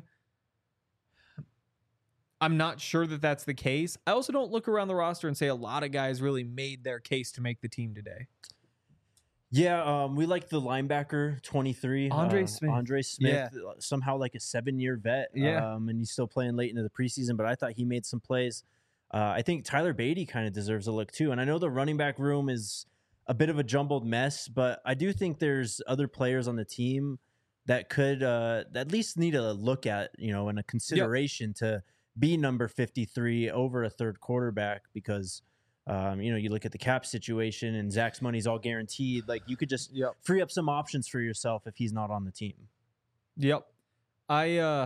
I'm not sure that that's the case. I also don't look around the roster and say a lot of guys really made their case to make the team today. Yeah, um, we like the linebacker twenty-three, Andre uh, Smith. Andre Smith, uh, somehow like a seven-year vet. Yeah. um, and he's still playing late into the preseason. But I thought he made some plays. Uh, I think Tyler Beatty kind of deserves a look too. And I know the running back room is a bit of a jumbled mess, but I do think there's other players on the team that could uh, at least need a look at, you know, and a consideration to be number fifty-three over a third quarterback, because. Um, you know, you look at the cap situation and Zach's money's all guaranteed. Like, you could just Yep. free up some options for yourself if he's not on the team. Yep. I uh,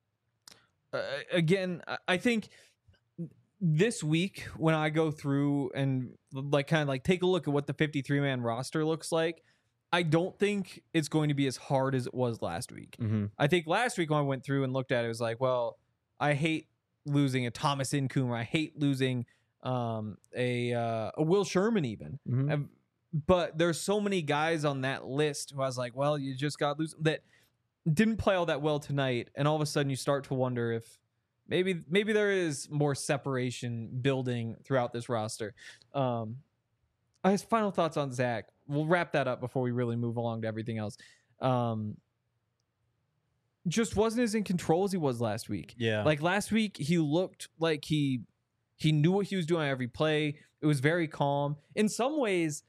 uh again, I- I think this week when I go through and like kind of like take a look at what the fifty-three man roster looks like, I don't think it's going to be as hard as it was last week. Mm-hmm. I think last week when I went through and looked at it, it was like, well, I hate losing a Thomas Incoom, or I hate losing um a uh, a Will Sherman even. Mm-hmm. Um, but there's so many guys on that list who I was like, well, you just got lose that didn't play all that well tonight, and all of a sudden you start to wonder if maybe maybe there is more separation building throughout this roster. Um, his final thoughts on Zach. We'll wrap that up before we really move along to everything else. Um, just wasn't as in control as he was last week. Yeah. Like last week, he looked like he he knew what he was doing on every play. It was very calm. In some ways,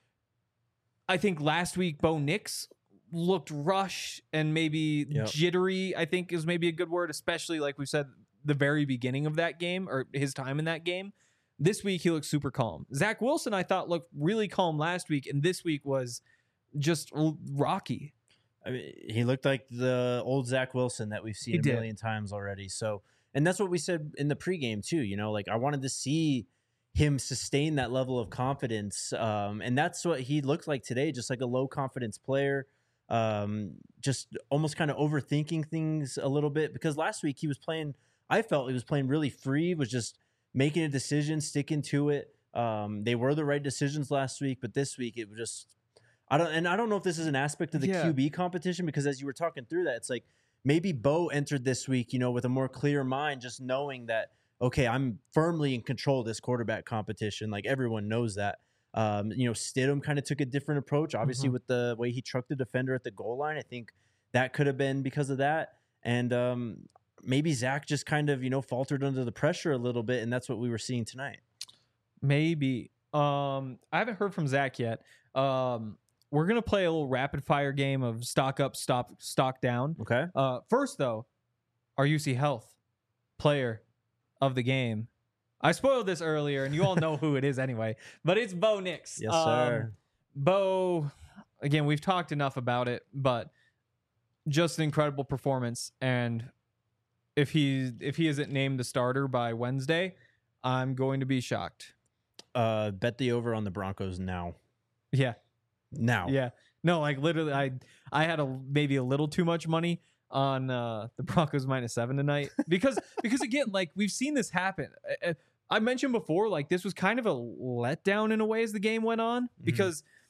I think last week Bo Nix looked rushed and maybe Yep. jittery, I think is maybe a good word, especially like we said, the very beginning of that game or his time in that game. This week, he looked super calm. Zach Wilson, I thought, looked really calm last week, and this week was just l- rocky. I mean, he looked like the old Zach Wilson that we've seen He a did. million times already. So, and that's what we said in the pregame too. You know, like, I wanted to see him sustain that level of confidence, um, and that's what he looked like today. Just like a low confidence player, um, just almost kind of overthinking things a little bit. Because last week he was playing, I felt he was playing really free, was just making a decision, sticking to it. Um, they were the right decisions last week, but this week it was just. I don't, and I don't know if this is an aspect of the Yeah. Q B competition, because as you were talking through that, it's like maybe Bo entered this week, you know, with a more clear mind, just knowing that, okay, I'm firmly in control of this quarterback competition. Like, everyone knows that. Um, you know, Stidham kind of took a different approach, obviously, Mhm. with the way he trucked the defender at the goal line. I think that could have been because of that. And um, maybe Zach just kind of, you know, faltered under the pressure a little bit, and that's what we were seeing tonight. Maybe. Um, I haven't heard from Zach yet. Um, we're gonna play a little rapid fire game of stock up, stop, stock down. Okay. Uh, first though, our U C Health player of the game. I spoiled this earlier, and you all know who it is anyway. But it's Bo Nix. Yes, Um, sir. Bo, again, we've talked enough about it, but just an incredible performance. And if he if he isn't named the starter by Wednesday, I'm going to be shocked. Uh, bet the over on the Broncos now. Yeah. Now. Yeah. No, like literally I I had a maybe a little too much money on uh the Broncos minus seven tonight because because again, like we've seen this happen. I, I mentioned before, like this was kind of a letdown in a way as the game went on, because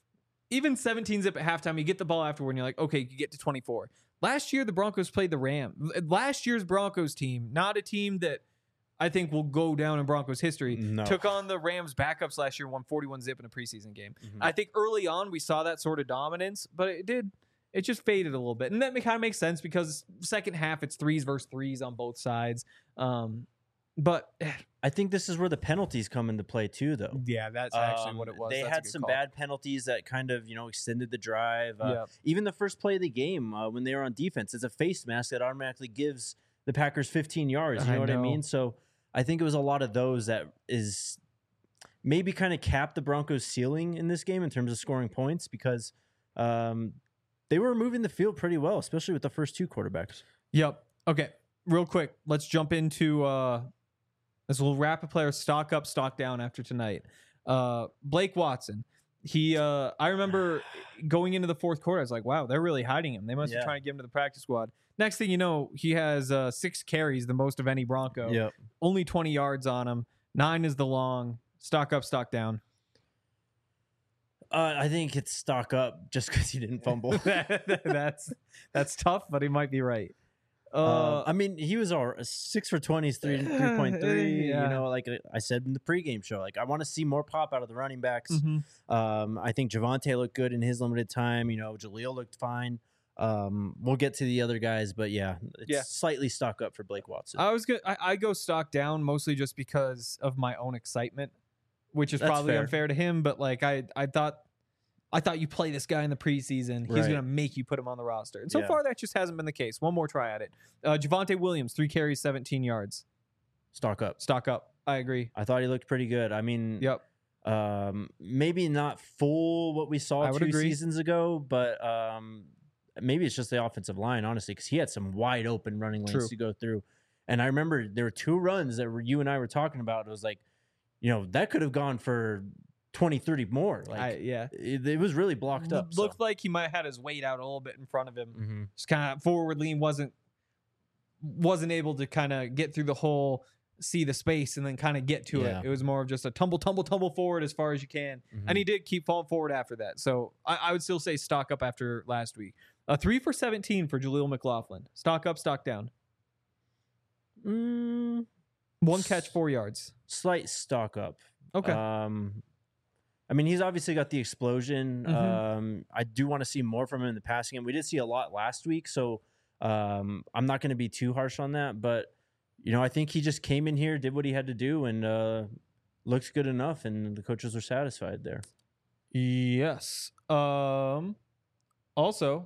even seventeen zip at halftime, you get the ball afterward and you're like, okay, you get to twenty-four. Last year, the Broncos played the Rams. Last year's Broncos team, not a team that I think will go down in Broncos history, No. took on the Rams backups last year, won forty-one zip in a preseason game. Mhm. I think early on we saw that sort of dominance, but it did, it just faded a little bit. And that kind of makes sense because second half, it's threes versus threes on both sides. Um, but I think this is where the penalties come into play too, though. yeah, that's Um, They had some bad penalties that kind of, you know, extended the drive. Uh, Yep. Even the first play of the game uh, when they were on defense, it's a face mask that automatically gives the Packers fifteen yards. You I know what I know. mean? So I think it was a lot of those that is maybe kind of capped the Broncos' ceiling in this game in terms of scoring points because um, they were moving the field pretty well, especially with the first two quarterbacks. Yep. Okay. Real quick, let's jump into uh, this little rapid player stock up, stock down after tonight. Uh, Blake Watson. He, uh, I remember going into the fourth quarter, I was like, wow, they're really hiding him. They must Yeah. be trying to get him to the practice squad. Next thing you know, he has uh, six carries, the most of any Bronco. Yep. Only twenty yards on him. Nine is the long. Stock up, stock down. Uh, I think it's stock up just because he didn't fumble. that's that's tough, but he might be right. Uh, Uh, I mean, he was all six for twenty, three three point three. Yeah. You know, like I said in the pregame show, like I want to see more pop out of the running backs. mhm. Um, I think Javonte looked good in his limited time. You know, Jaleel looked fine. Um, we'll get to the other guys, but yeah, it's Yeah. slightly stock up for Blake Watson. I was good. I, I go stock down mostly just because of my own excitement, which is That's probably fair. unfair to him. But like I, I thought, I thought you play this guy in the preseason, he's Right. gonna make you put him on the roster, and so Yeah. far that just hasn't been the case. One more try at it. Uh, Javonte Williams, three carries, seventeen yards. Stock up. Stock up. I agree. I thought he looked pretty good. I mean, Yep. um, maybe not full what we saw I would two agree. seasons ago, but um, maybe it's just the offensive line, honestly, because he had some wide open running lanes True. to go through. And I remember there were two runs that were, you and I were talking about. It was like, you know, that could have gone for twenty, thirty more. Like, I, yeah. it, it was really blocked up. Looked like he might have had his weight out a little bit in front of him. hmm Just kind of forward lean, wasn't wasn't able to kind of get through the hole, see the space, and then kind of get to Yeah. it. It was more of just a tumble, tumble, tumble forward as far as you can. And he did keep falling forward after that. So I, I would still say stock up after last week. A three for seventeen for Jaleel McLaughlin. Stock up, stock down. mm, One catch, four yards. slight stock up. Okay. Um, I mean, he's obviously got the explosion. Mhm. Um, I do want to see more from him in the passing game. We did see a lot last week, so um, I'm not going to be too harsh on that. But you know, I think he just came in here, did what he had to do, and uh, looks good enough, and the coaches are satisfied there. Yes. Um. Also.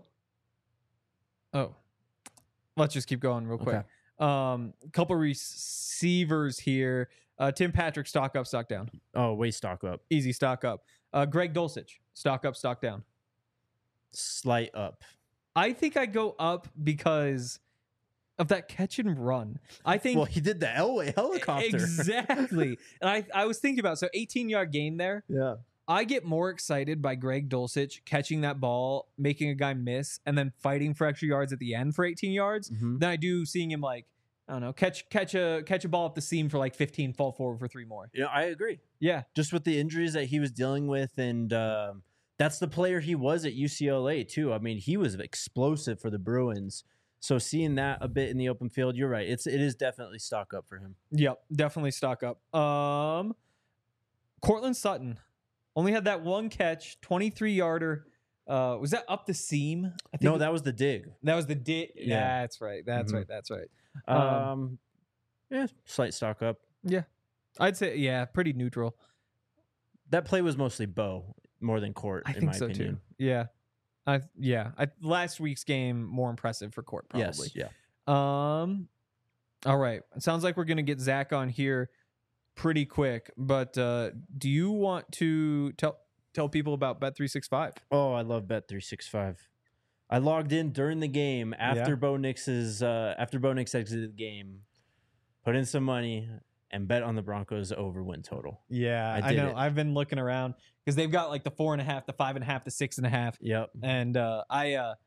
Oh. Let's just keep going real quick. Okay. Um. Couple receivers here. Uh. Tim Patrick, stock up, stock down. Oh, way stock up, Easy stock up. Uh. Greg Dulcich, stock up, stock down. slight up. I think I go up because of that catch and run. I think Well, he did the Elway helicopter. exactly. And I, I was thinking about so eighteen yard gain there. Yeah. I get more excited by Greg Dulcich catching that ball, making a guy miss, and then fighting for extra yards at the end for eighteen yards Mhm. than I do seeing him like, I don't know, catch catch a catch a ball up the seam for like fifteen, fall forward for three more. You know, I agree. Yeah. Just with the injuries that he was dealing with, and um, that's the player he was at U C L A too. I mean, he was explosive for the Bruins. So seeing that a bit in the open field, you're right. It's it is definitely stock up for him. Yep. Definitely stock up. Um Cortland Sutton only had that one catch, twenty-three yarder. Uh, was that up the seam? I No, it- that was the dig. that was the di- Yeah. That's right. That's Mhm. right. That's right. Um, Um, yeah, slight stock up. I'd say yeah, pretty neutral. That play was mostly Bo more than Court. I in think my so opinion. too. Yeah. I yeah. I, last week's game more impressive for Court probably. Yes, yeah. Um. All right. It sounds like we're gonna get Zach on here pretty quick. But uh, do you want to tell tell people about Bet three sixty-five? Oh, I love Bet three sixty-five. I logged in during the game after Yeah. Bo Nix's uh, after Bo Nix exited the game, put in some money, and bet on the Broncos over win total. Yeah, I I, did know. it. I've been looking around because they've got like the four and a half, the five and a half, the six and a half, Yep. and uh, I uh,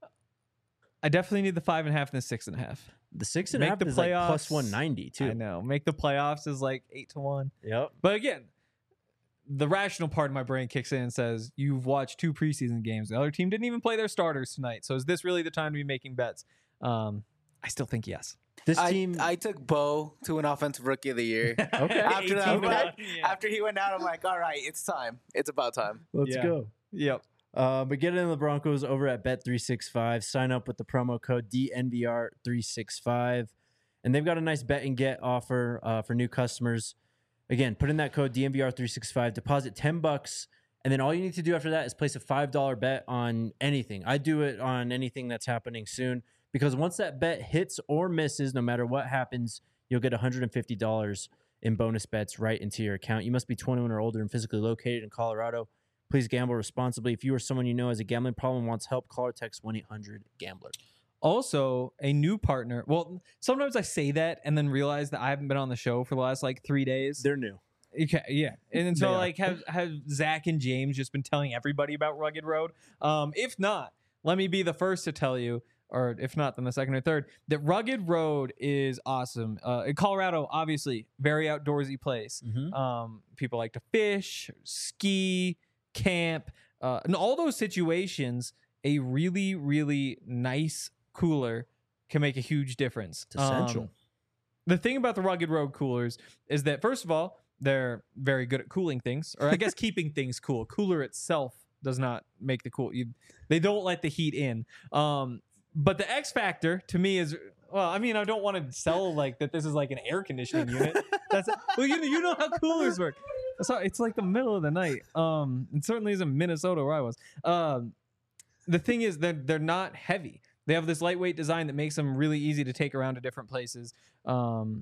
I definitely need the five and a half and the six and a half. The six and a Make half the is like plus playoffs. one ninety I too. know. Make the playoffs is like eight to one. Yep. But again, the rational part of my brain kicks in and says, you've watched two preseason games. The other team didn't even play their starters tonight. So is this really the time to be making bets? Um, I still think yes. This I, team, I took Bo to an offensive rookie of the year. okay, After that, I'm eighteen like- yeah. After he went out, I'm like, all right, it's time. It's about time. let's Yeah. go. Yep. Uh, but get in the Broncos over at Bet three sixty-five. Sign up with the promo code D N V R three sixty-five. And they've got a nice bet and get offer uh, for new customers. Again, put in that code D N V R three sixty-five, deposit ten bucks, and then all you need to do after that is place a five dollar bet on anything. I do it on anything that's happening soon because once that bet hits or misses, no matter what happens, you'll get one hundred fifty dollars in bonus bets right into your account. You must be twenty-one or older and physically located in Colorado. Please gamble responsibly. If you or someone you know has a gambling problem and wants help, call or text one eight hundred gambler. Also, a new partner. Well, sometimes I say that and then realize that I haven't been on the show for the last like three days. They're new. Okay, yeah, and, and so They are. like have have Zach and James just been telling everybody about Rugged Road? Um, if not, let me be the first to tell you, or if not, then the second or third, that Rugged Road is awesome. Uh, in Colorado, obviously, very outdoorsy place. Mm-hmm. Um, people like to fish, ski, camp, uh, in all those situations. A really, really nice cooler can make a huge difference. It's essential. Um, the thing about the Rugged Road coolers is that, first of all, they're very good at cooling things, or I guess keeping things cool. Cooler itself does not make the cool. You, they don't let the heat in. Um, but the X factor to me is, well, I mean, I don't want to sell like that. This is like an air conditioning unit. That's well, you you know how coolers work. So it's like the middle of the night. Um, it certainly isn't Minnesota where I was. Um, the thing is that they're not heavy. They have this lightweight design that makes them really easy to take around to different places. Um,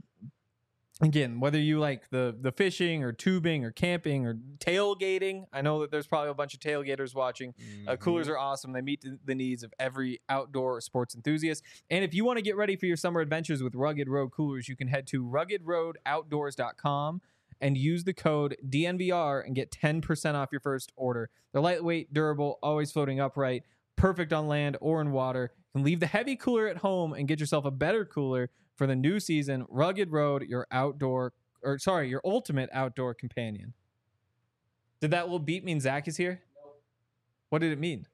again, whether you like the the fishing or tubing or camping or tailgating, I know that there's probably a bunch of tailgaters watching. Uh, coolers are awesome. They meet the, the needs of every outdoor sports enthusiast. And if you want to get ready for your summer adventures with Rugged Road coolers, you can head to rugged road outdoors dot com and use the code D N V R and get ten percent off your first order. They're lightweight, durable, always floating upright, perfect on land or in water. You can leave the heavy cooler at home and get yourself a better cooler for the new season. Rugged Road, your outdoor, or sorry, your ultimate outdoor companion. Did that little beat mean Zach is here? What did it mean?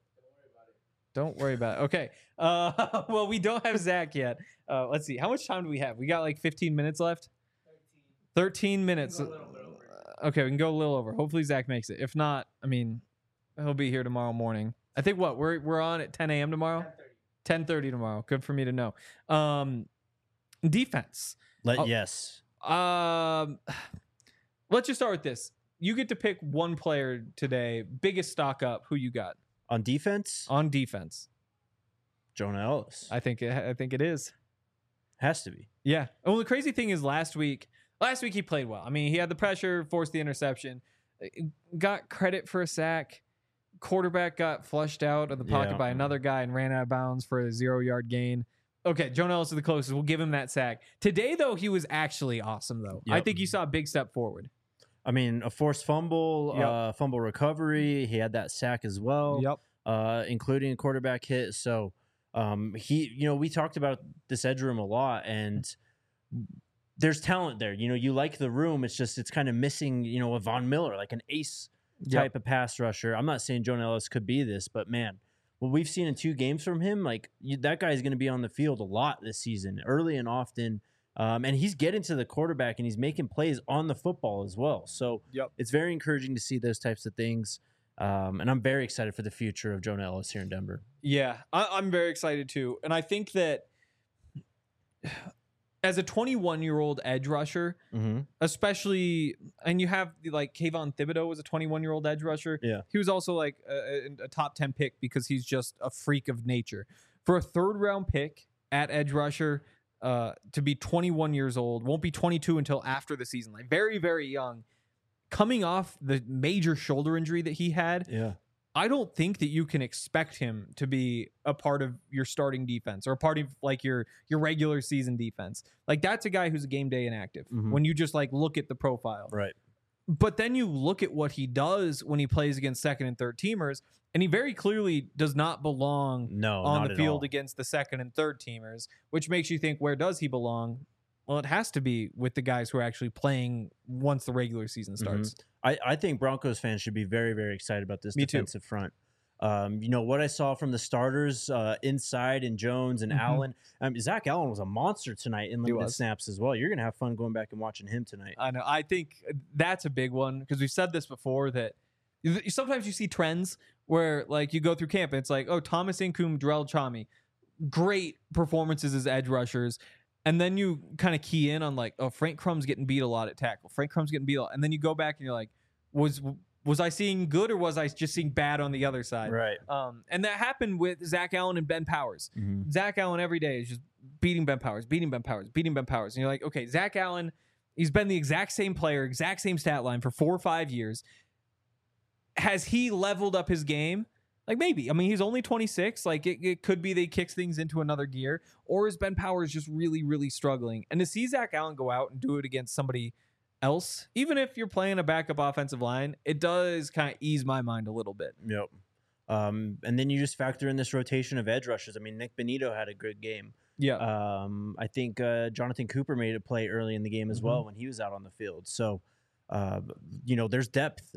Don't worry about it. Okay. Uh, well, we don't have Zach yet. Uh, let's see. How much time do we have? We got like fifteen minutes left. thirteen minutes. Okay, we can go a little over. Hopefully Zach makes it. If not, I mean, he'll be here tomorrow morning. I think what we're we're on at ten a.m. tomorrow. ten thirty tomorrow. Good for me to know. Um, defense. Let, Oh. yes. Um, let's just start with this. You get to pick one player today. Biggest stock up. Who you got On defense, on defense? Jonah Ellis. I think it, I think it is. Has to be. Yeah. Well, the crazy thing is last week. Last week he played well. I mean, he had the pressure, forced the interception, got credit for a sack. Quarterback got flushed out of the pocket Yeah. by another guy and ran out of bounds for a zero-yard gain. Okay, Jonah Ellis is the closest. We'll give him that sack. Today, though, he was actually awesome, though. I Yep. think you saw a big step forward. I mean, a forced fumble, Yep. uh, fumble recovery. He had that sack as well, Yep. uh, including a quarterback hit. So um, he, you know, we talked about this edge room a lot, and there's talent there. You know, you like the room. It's just it's kind of missing, you know, a Von Miller, like an ace type of pass rusher. I'm not saying Jonah Ellis could be this, but man, what we've seen in two games from him, like you, that guy is going to be on the field a lot this season, early and often. Um, and he's getting to the quarterback and he's making plays on the football as well. So Yep. it's very encouraging to see those types of things. Um, and I'm very excited for the future of Jonah Ellis here in Denver. Yeah, I, I'm very excited too. And I think that as a twenty-one-year-old edge rusher, Mm-hmm. especially, and you have like Kayvon Thibodeau was a twenty-one-year-old edge rusher. Yeah. He was also like a, a top ten pick because he's just a freak of nature. For a third-round pick at edge rusher, uh, to be twenty-one years old, won't be twenty-two until after the season, like very, very young. Coming off the major shoulder injury that he had, Yeah. I don't think that you can expect him to be a part of your starting defense or a part of like your your regular season defense. Like that's a guy who's a game day inactive Mhm. when you just like look at the profile. Right. But then you look at what he does when he plays against second and third teamers, and he very clearly does not belong No, on not the at field all. against the second and third teamers, which makes you think, where does he belong? Well, it has to be with the guys who are actually playing once the regular season starts. I, I think Broncos fans should be very, very excited about this Me too. defensive front. Um, you know, what I saw from the starters uh, inside and Jones and Mhm. Allen. Um, Zach Allen was a monster tonight in limited was. snaps as well. You're going to have fun going back and watching him tonight. I know. I think that's a big one because we've said this before that sometimes you see trends where like you go through camp and it's like, oh, Thomas Incoom, Darrell Chami, great performances as edge rushers. And then you kind of key in on like, oh, Frank Crumb's getting beat a lot at tackle. Frank Crumb's getting beat a lot. And then you go back and you're like, was was I seeing good or was I just seeing bad on the other side? Right. Um, and that happened with Zach Allen and Ben Powers. Mm-hmm. Zach Allen every day is just beating Ben Powers, beating Ben Powers, beating Ben Powers. And you're like, okay, Zach Allen, he's been the exact same player, exact same stat line for four or five years. Has he leveled up his game? Like maybe. I mean, he's only twenty-six. Like it, it could be they kicks things into another gear. Or is Ben Powers just really, really struggling? And to see Zach Allen go out and do it against somebody else, even if you're playing a backup offensive line, it does kind of ease my mind a little bit. Yep. Um, and then you just factor in this rotation of edge rushers. I mean, Nick Benito had a good game. Yeah. Um, I think uh, Jonathan Cooper made a play early in the game as Mhm. well when he was out on the field. So, uh, you know, there's depth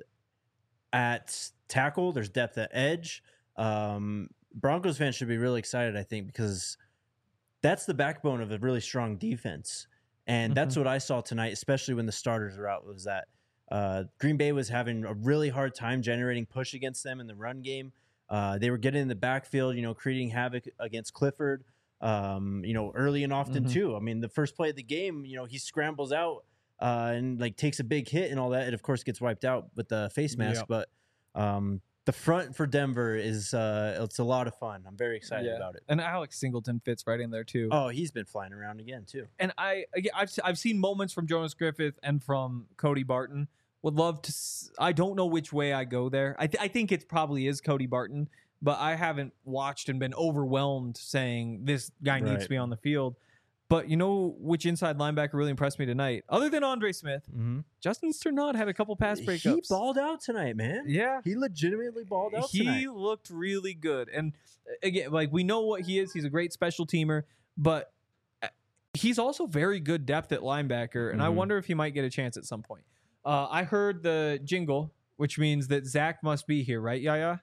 at tackle. There's depth at edge. Um, Broncos fans should be really excited, I think, because that's the backbone of a really strong defense. And Mhm. that's what I saw tonight, especially when the starters were out, was that uh, Green Bay was having a really hard time generating push against them in the run game. Uh, they were getting in the backfield, you know, creating havoc against Clifford, um, you know, early and often Mhm. too. I mean, the first play of the game, you know, he scrambles out uh, and like takes a big hit and all that. It, of course, gets wiped out with the face mask. Yeah. But um, the front for Denver is uh, it's a lot of fun. I'm very excited Yeah. about it. And Alex Singleton fits right in there too. Oh, he's been flying around again too. And I, again, I've I've seen moments from Jonas Griffith and from Cody Barton. Would love to. s- I don't know which way I go there. I th- I think it probably is Cody Barton, but I haven't watched and been overwhelmed saying this guy needs Right. to be on the field. But you know which inside linebacker really impressed me tonight, other than Andre Smith? Mm-hmm. Justin Sternad had a couple pass He breakups. balled out tonight, man. Yeah. He legitimately balled out He tonight. looked really good. And uh, again, like we know what he is. He's a great special teamer, but uh, he's also very good depth at linebacker. And I Mhm. wonder if he might get a chance at some point. Uh, I heard the jingle, which means that Zach must be here, right, Yaya?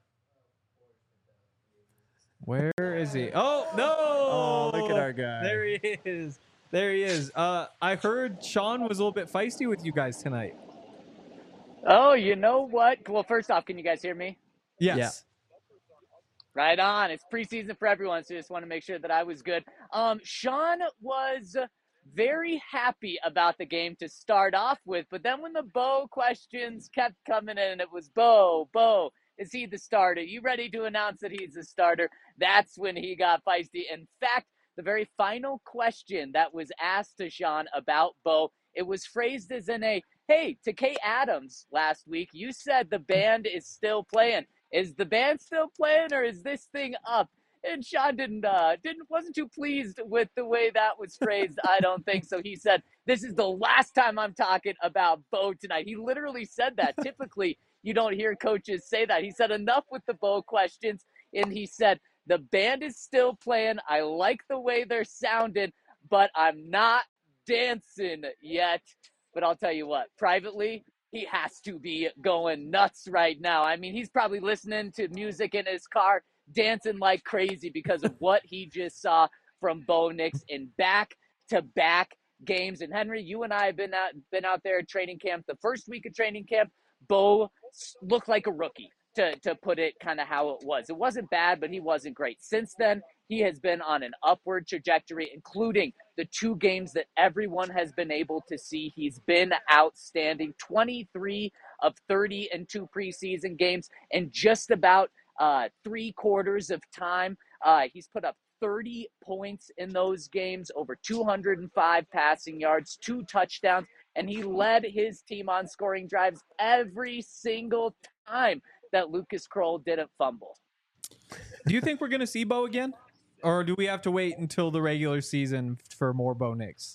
Where is he? Oh, no. Oh, look at our guy. There he is. There he is. Uh, I heard Sean was a little bit feisty with you guys tonight. Oh, you know what? Well, first off, can you guys hear me? Yes. Right on. It's preseason for everyone, so just want to make sure that I was good. Um, Sean was very happy about the game to start off with, but then when the Bo questions kept coming in, it was Bo, Bo, is he the starter? You ready to announce that he's the starter? That's when he got feisty. In fact, the very final question that was asked to Sean about Bo, it was phrased as in a, hey, to Kay Adams last week, you said the band is still playing. Is the band still playing or is this thing up? And Sean didn't, uh, didn't, wasn't too pleased with the way that was phrased. I don't think so. He said, this is the last time I'm talking about Bo tonight. He literally said that. Typically, you don't hear coaches say that. He said, enough with the Bo questions. And he said, the band is still playing. I like the way they're sounding, but I'm not dancing yet. But I'll tell you what, privately, he has to be going nuts right now. I mean, he's probably listening to music in his car, dancing like crazy because of what he just saw from Bo Nix in back-to-back games. And Henry, you and I have been out, been out there at training camp. The first week of training camp, Bo looked like a rookie, to, to put it kind of how it was. It wasn't bad, but he wasn't great. Since then, he has been on an upward trajectory, including the two games that everyone has been able to see. He's been outstanding. twenty-three of thirty in two preseason games, and just about uh, three quarters of time, uh, he's put up thirty points in those games, over two hundred five passing yards, two touchdowns, and he led his team on scoring drives every single time that Lucas Kroll didn't fumble. Do you think we're going to see Bo again? Or do we have to wait until the regular season for more Bo Nix?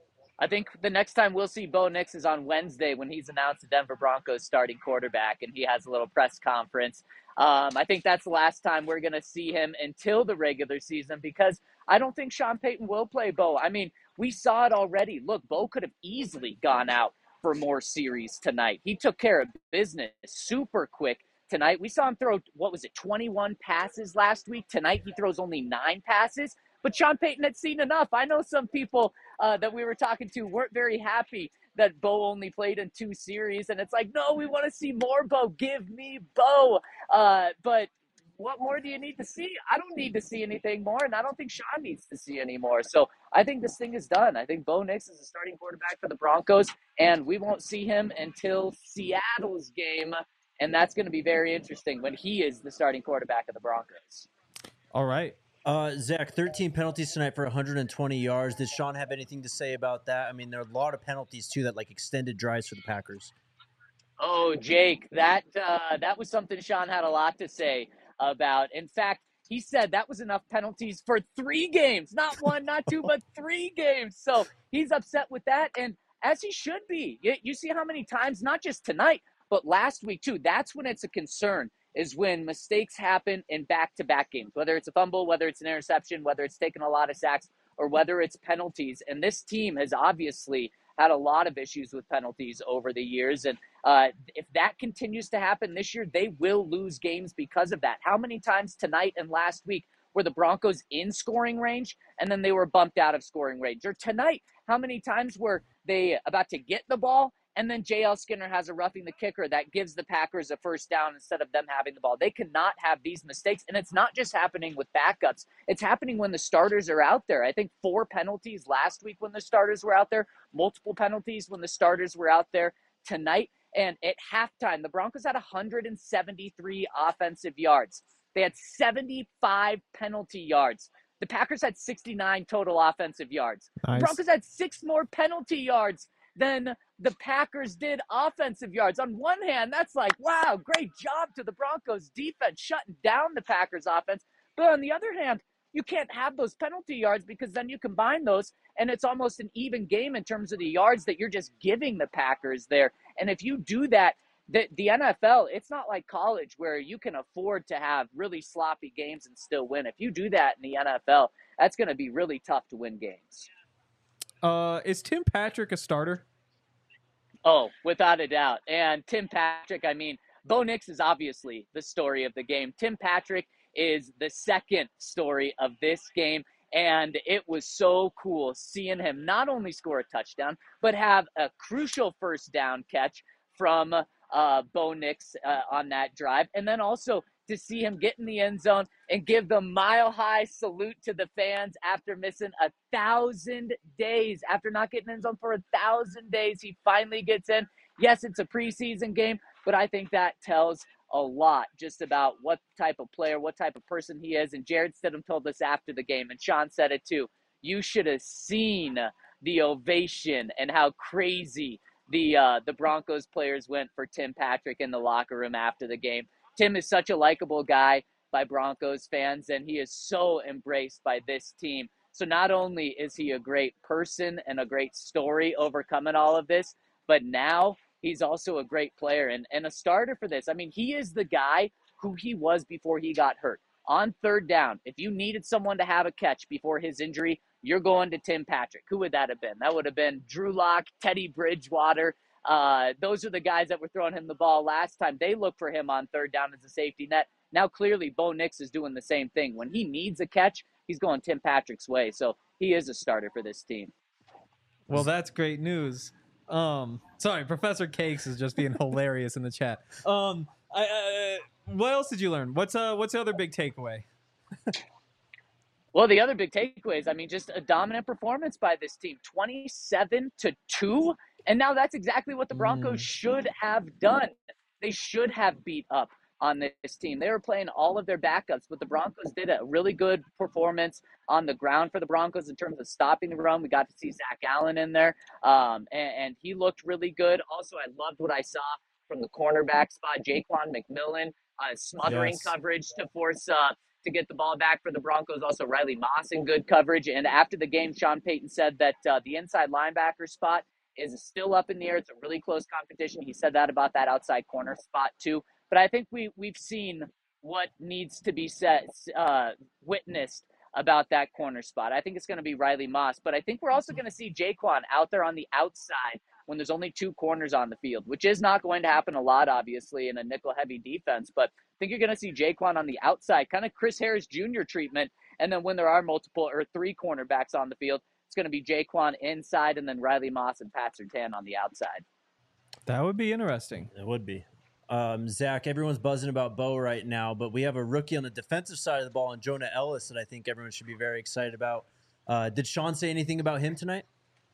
I think the next time we'll see Bo Nix is on Wednesday when he's announced the Denver Broncos starting quarterback and he has a little press conference. Um, I think that's the last time we're going to see him until the regular season because I don't think Sean Payton will play Bo. I mean, we saw it already. Look, Bo could have easily gone out for more series tonight. He took care of business super quick tonight. We saw him throw, what was it, twenty-one passes last week. Tonight he throws only nine passes. But Sean Payton had seen enough. I know some people uh, that we were talking to weren't very happy that Bo only played in two series. And it's like, no, we want to see more Bo. Give me Bo. Uh, but what more do you need to see? I don't need to see anything more, and I don't think Sean needs to see any more. So I think this thing is done. I think Bo Nix is the starting quarterback for the Broncos, and we won't see him until Seattle's game, and that's going to be very interesting when he is the starting quarterback of the Broncos. All right. Uh, Zach, thirteen penalties tonight for one hundred twenty yards. Did Sean have anything to say about that? I mean, there are a lot of penalties, too, that like extended drives for the Packers. Oh, Jake, that uh, that was something Sean had a lot to say about. In fact, he said that was enough penalties for three games, not one, not two, but three games. So he's upset with that, and as he should be. You, you see how many times, not just tonight, but last week too. That's when it's a concern, is when mistakes happen in back-to-back games, whether it's a fumble, whether it's an interception, whether it's taking a lot of sacks, or whether it's penalties. And this team has obviously had a lot of issues with penalties over the years. And uh, if that continues to happen this year, they will lose games because of that. How many times tonight and last week were the Broncos in scoring range and then they were bumped out of scoring range? Or tonight, how many times were they about to get the ball and then J L Skinner has a roughing the kicker that gives the Packers a first down instead of them having the ball? They cannot have these mistakes. And it's not just happening with backups. It's happening when the starters are out there. I think four penalties last week when the starters were out there, multiple penalties when the starters were out there tonight. And at halftime, the Broncos had one hundred seventy-three offensive yards. They had seventy-five penalty yards. The Packers had sixty-nine total offensive yards. Nice. The Broncos had six more penalty yards than the Packers did offensive yards. On one hand, that's like, wow, great job to the Broncos defense shutting down the Packers offense. But on the other hand, you can't have those penalty yards because then you combine those and it's almost an even game in terms of the yards that you're just giving the Packers there. And if you do that, the, the N F L, it's not like college where you can afford to have really sloppy games and still win. If you do that in the N F L, that's going to be really tough to win games. Uh, is Tim Patrick a starter? Oh, without a doubt. And Tim Patrick, I mean, Bo Nix is obviously the story of the game. Tim Patrick is the second story of this game. And it was so cool seeing him not only score a touchdown, but have a crucial first down catch from uh, Bo Nix uh, on that drive. And then also to see him get in the end zone and give the mile-high salute to the fans after missing a thousand days. After not getting in zone for a thousand days, he finally gets in. Yes, it's a preseason game, but I think that tells a lot just about what type of player, what type of person he is. And Jared Stidham told us after the game, and Sean said it too, you should have seen the ovation and how crazy the uh, the Broncos players went for Tim Patrick in the locker room after the game. Tim is such a likable guy by Broncos fans, and he is so embraced by this team. So not only is he a great person and a great story overcoming all of this, but now he's also a great player and, and a starter for this. I mean, he is the guy who he was before he got hurt. On third down, if you needed someone to have a catch before his injury, you're going to Tim Patrick. Who would that have been? That would have been Drew Lock, Teddy Bridgewater. Uh, those are the guys that were throwing him the ball last time. They look for him on third down as a safety net. Now, clearly, Bo Nix is doing the same thing. When he needs a catch, he's going Tim Patrick's way. So he is a starter for this team. Well, that's great news. Um, sorry, Professor Cakes is just being hilarious in the chat. Um, I, uh, what else did you learn? What's uh, what's the other big takeaway? Well, the other big takeaways, I mean, just a dominant performance by this team, twenty-seven to two. And now that's exactly what the Broncos mm. should have done. They should have beat up on this team. They were playing all of their backups, but the Broncos did a really good performance on the ground for the Broncos in terms of stopping the run. We got to see Zach Allen in there, um, and, and he looked really good. Also, I loved what I saw from the cornerback spot, Jaquan McMillan, uh, smothering yes. coverage to force uh, to get the ball back for the Broncos. Also, Riley Moss in good coverage. And after the game, Sean Payton said that uh, the inside linebacker spot is still up in the air. It's a really close competition. He said that about that outside corner spot too. But I think we, we've seen what needs to be said, uh, witnessed about that corner spot. I think it's going to be Riley Moss. But I think we're also going to see Jaquan out there on the outside when there's only two corners on the field, which is not going to happen a lot, obviously, in a nickel-heavy defense. But I think you're going to see Jaquan on the outside, kind of Chris Harris Junior treatment. And then when there are multiple or three cornerbacks on the field, it's going to be Jaquan inside and then Riley Moss and Pat Surtain on the outside. That would be interesting. It would be. Um, Zach, everyone's buzzing about Bo right now, but we have a rookie on the defensive side of the ball, and Jonah Ellis, that I think everyone should be very excited about. Uh, did Sean say anything about him tonight?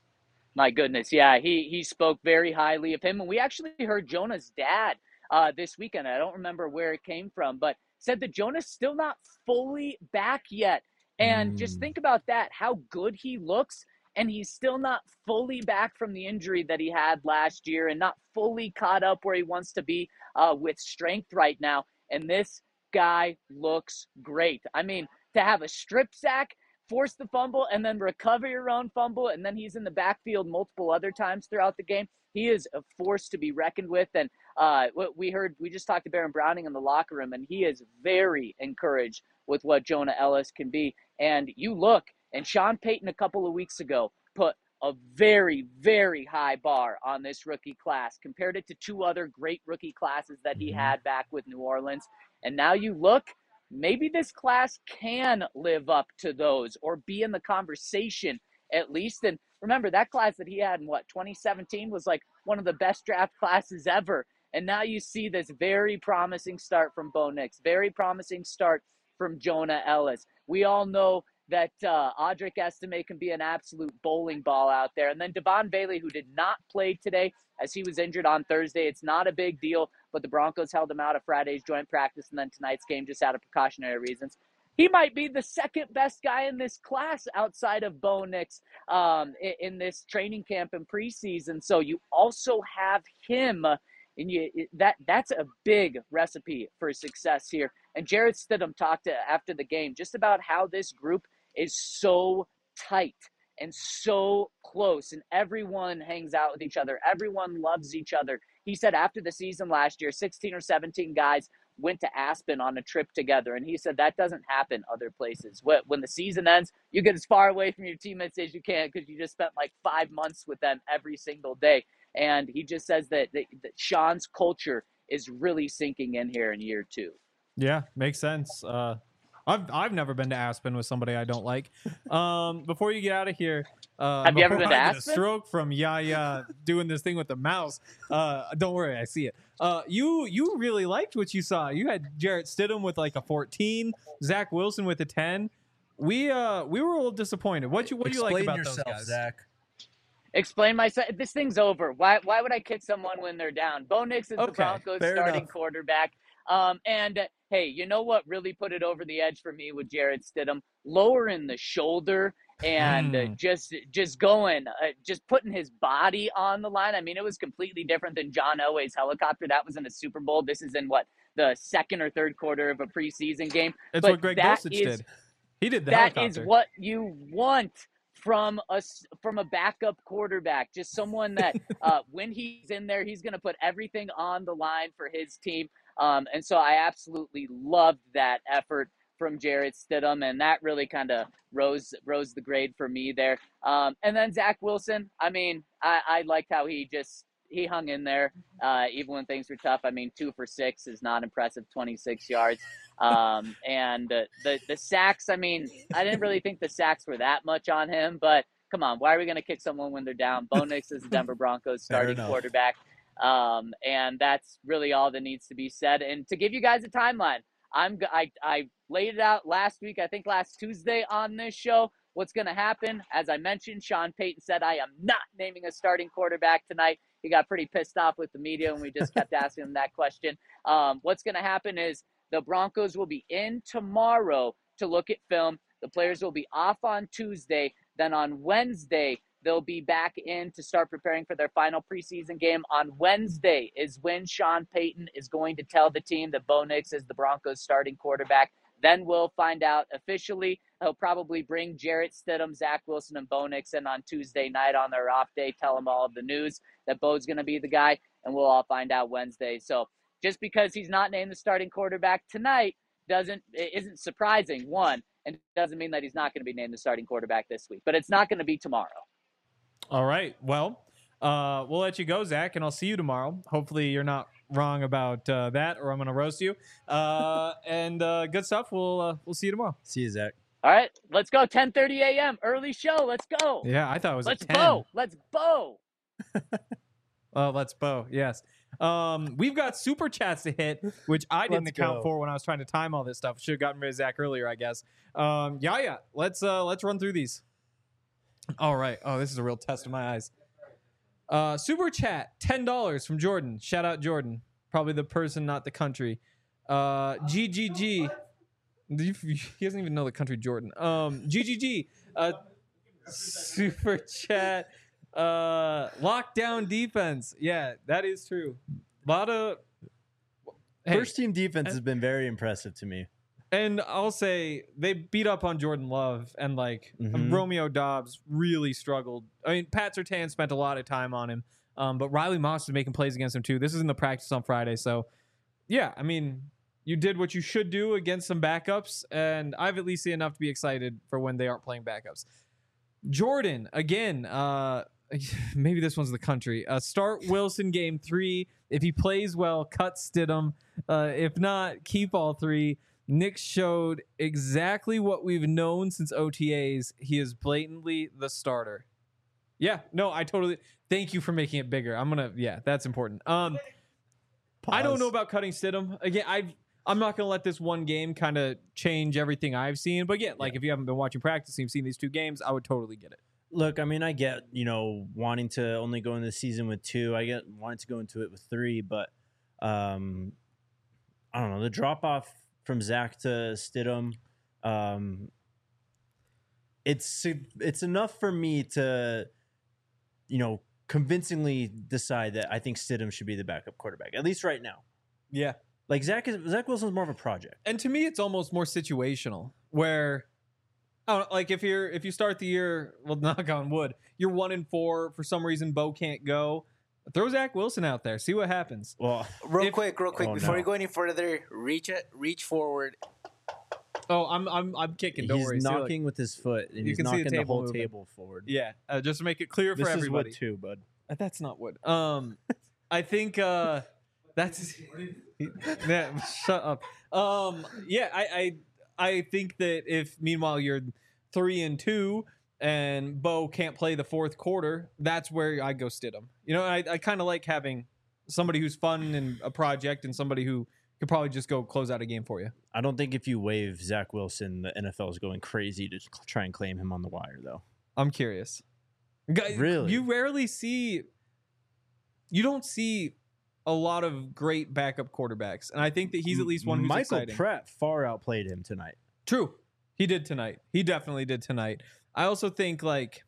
My goodness, yeah, he he spoke very highly of him, and we actually heard Jonah's dad uh, this weekend. I don't remember where it came from, but said that Jonah's still not fully back yet. And mm. just think about that, how good he looks, and he's still not fully back from the injury that he had last year and not fully caught up where he wants to be uh, with strength right now. And this guy looks great. I mean, to have a strip sack, force the fumble, and then recover your own fumble, and then he's in the backfield multiple other times throughout the game. He is a force to be reckoned with. And uh, what we heard, we just talked to Baron Browning in the locker room, and he is very encouraged with what Jonah Ellis can be. And you look, and Sean Payton a couple of weeks ago put a very, very high bar on this rookie class, compared it to two other great rookie classes that he had back with New Orleans. And now you look, maybe this class can live up to those or be in the conversation at least. And remember, that class that he had in, what, twenty seventeen was like one of the best draft classes ever. And now you see this very promising start from Bo Nix, very promising start from Jonah Ellis. We all know that uh, Audric Estime can be an absolute bowling ball out there. And then Devon Bailey, who did not play today as he was injured on Thursday. It's not a big deal, but the Broncos held him out of Friday's joint practice and then tonight's game just out of precautionary reasons. He might be the second best guy in this class outside of Bo Nix um, in, in this training camp and preseason. So you also have him, and you that that's a big recipe for success here. And Jarrett Stidham talked to, after the game just about how this group is so tight and so close, and everyone hangs out with each other. Everyone loves each other. He said after the season last year, sixteen or seventeen guys went to Aspen on a trip together, and he said that doesn't happen other places. When the season ends, you get as far away from your teammates as you can because you just spent like five months with them every single day. And he just says that, that, that Sean's culture is really sinking in here in year two. Yeah, makes sense. Uh, I've I've never been to Aspen with somebody I don't like. Um, before you get out of here, uh, have you ever been to I get Aspen? A stroke from Yaya doing this thing with the mouse. Uh, don't worry, I see it. Uh, you you really liked what you saw. You had Jarrett Stidham with like a fourteen, Zach Wilson with a ten. We uh we were a little disappointed. What you what do you like about yourself, those guys, Zach? Explain myself. This thing's over. Why Why would I kick someone when they're down? Bo Nix is Okay, the Broncos fair starting enough. quarterback. Um, and uh, hey, you know what really put it over the edge for me with Jarrett Stidham? Lowering the shoulder and uh, Mm. just just going, uh, just putting his body on the line. I mean, it was completely different than John Elway's helicopter. That was in a Super Bowl. This is in what, the second or third quarter of a preseason game. It's But what Greg that Dulcich is- did. He did the That helicopter. is what you want from a s- from a backup quarterback. Just someone that uh, when he's in there, he's going to put everything on the line for his team. Um, and so I absolutely loved that effort from Jarrett Stidham, and that really kind of rose rose the grade for me there. Um, and then Zach Wilson, I mean, I, I liked how he just he hung in there uh, even when things were tough. I mean, two for six is not impressive, twenty-six yards. Um, and uh, the the sacks, I mean, I didn't really think the sacks were that much on him, but come on, why are we going to kick someone when they're down? Bo Nix is the Denver Broncos starting enough. quarterback. Um, and that's really all that needs to be said. And to give you guys a timeline, I'm g- I, I laid it out last week, I think last Tuesday on this show. What's going to happen? As I mentioned, Sean Payton said, I am not naming a starting quarterback tonight. He got pretty pissed off with the media when we just kept asking him that question. Um, what's going to happen is the Broncos will be in tomorrow to look at film. The players will be off on Tuesday. Then on Wednesday, they'll be back in to start preparing for their final preseason game. On Wednesday is when Sean Payton is going to tell the team that Bo Nix is the Broncos starting quarterback. Then we'll find out officially. He'll probably bring Jarrett Stidham, Zach Wilson, and Bo Nix in on Tuesday night on their off day, tell them all of the news that Bo's going to be the guy, and we'll all find out Wednesday. So just because he's not named the starting quarterback tonight doesn't isn't surprising, one, and it doesn't mean that he's not going to be named the starting quarterback this week. But it's not going to be tomorrow. All right. Well, Uh, we'll let you go, Zach, and I'll see you tomorrow. Hopefully, you're not wrong about uh, that, or I'm gonna roast you. Uh, and uh, good stuff. We'll uh, we'll see you tomorrow. See you, Zach. All right, let's go. ten thirty a.m. early show. Let's go. Yeah, I thought it was Let's at ten. bow. Let's bow. Oh, let's bow. Yes. Um, we've got super chats to hit, which I didn't Let's account go. for when I was trying to time all this stuff. Should have gotten rid of Zach earlier, I guess. Um, yeah, yeah. Let's uh, let's run through these. All right. Oh, this is a real test of my eyes. Uh, super chat, ten dollars from Jordan. Shout out Jordan. Probably the person, not the country. Uh, G G G. He doesn't even know the country Jordan. Um, G G G. Uh, super chat. Uh, lockdown defense. Yeah, that is true. A lot of hey, First team defense has been very impressive to me. and I'll say they beat up on Jordan Love, and like Mhm. Romeo Dobbs really struggled. I mean, Pat Surtain spent a lot of time on him, um, but Riley Moss was making plays against him too. This is in the practice on Friday, so yeah, I mean, you did what you should do against some backups, and I've at least seen enough to be excited for when they aren't playing backups. Jordan again. Uh, maybe this one's the country. Uh, start Wilson game three. If he plays well, cut Stidham. Uh, if not, keep all three. Nick showed exactly what we've known since O T As. He is blatantly the starter. Yeah, no, I totally. Thank you for making it bigger. I'm gonna. Yeah, that's important. Um, I don't Pause. know about cutting Stidham again. I I'm not gonna let this one game kind of change everything I've seen. But again, like if you haven't been watching practice, and you've seen these two games, I would totally get it. Look, I mean, I get, you know, wanting to only go into the season with two. I get wanting to go into it with three, but um, I don't know. The drop off from Zach to Stidham, um, it's it's enough for me to, you know, convincingly decide that I think Stidham should be the backup quarterback, at least right now. Yeah. Like Zach is Zach Wilson's more of a project. And to me, it's almost more situational, where, I don't know, like if you're if you start the year, well, knock on wood, you're one and four for some reason. Bo can't go. Throw Zach Wilson out there, see what happens. Well, Real If- quick, real quick, Oh, before no. you go any further, reach it, reach forward. Oh, I'm I'm I'm kicking. Don't he's worry. See, look. knocking with his foot, and You he's can see the knocking the, table whole moving. table forward. Yeah, uh, just to make it clear This for is everybody. wood too, bud. Uh, That's not wood. Um, I think uh, that's yeah. Shut up. Um, yeah, I, I I think that if meanwhile you're three and two and Bo can't play the fourth quarter, that's where I go Stidham. You know, I I kind of like having somebody who's fun and a project, and somebody who could probably just go close out a game for you. I don't think if you waive Zach Wilson, the N F L is going crazy to cl- try and claim him on the wire, though. I'm curious. Guy- Really? You rarely see, you don't see a lot of great backup quarterbacks. And I think that he's at least one who's Michael exciting. Pratt far outplayed him tonight. True. He did tonight. He definitely did tonight. I also think like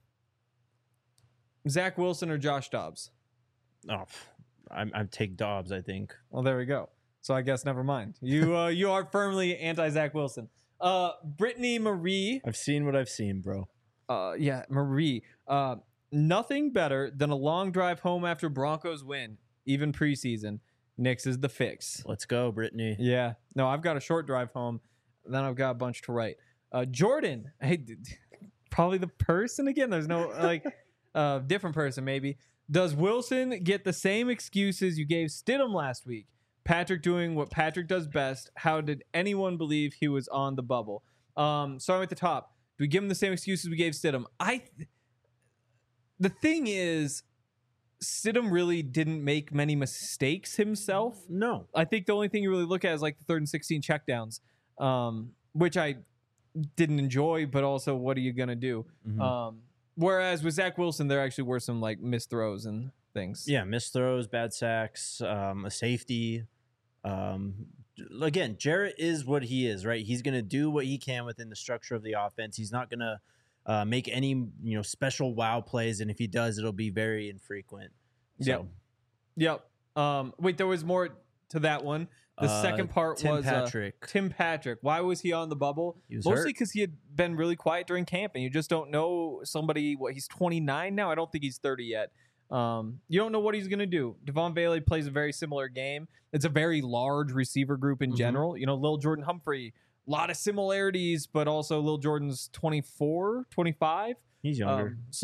Zach Wilson or Josh Dobbs. Oh, I'm, I'm take Dobbs, I think. Well, there we go. So I guess never mind. You uh, you are firmly anti Zach Wilson. Uh, Brittany Marie. I've seen what I've seen, bro. Uh, yeah, Marie. Uh, nothing better than a long drive home after Broncos win, even preseason. Knicks is the fix. Let's go, Brittany. Yeah. No, I've got a short drive home. Then I've got a bunch to write. Uh, Jordan. Hey, d- d- probably the person again. There's no like uh, different person maybe. Does Wilson get the same excuses you gave Stidham last week? Patrick doing what Patrick does best. How did anyone believe he was on the bubble? Um, starting at the top. Do we give him the same excuses we gave Stidham? I. Th- the thing is, Stidham really didn't make many mistakes himself. No. I think the only thing you really look at is like the third and sixteen checkdowns, um, which I didn't enjoy, but also what are you going to do? Mhm. Um, whereas with Zach Wilson, there actually were some like missed throws and things. Yeah, missed throws, bad sacks, um, a safety. Um, again, Jarrett is what he is, right? He's going to do what he can within the structure of the offense. He's not going to uh, make any, you know, special wow plays, and if he does, it'll be very infrequent. So, Yep. Yep. Um, wait, there was more to that one. The uh, second part Tim was uh, Patrick. Tim Patrick. Why was he on the bubble? He was Mostly hurt. because he had been really quiet during camp, and you just don't know somebody. What he's twenty-nine now. I don't think he's thirty yet. Um, you don't know what he's gonna do. Devon Bailey plays a very similar game. It's a very large receiver group in Mhm. general. You know, Lil Jordan Humphrey, a lot of similarities, but also Lil Jordan's twenty-four, twenty-five. He's younger. Um, so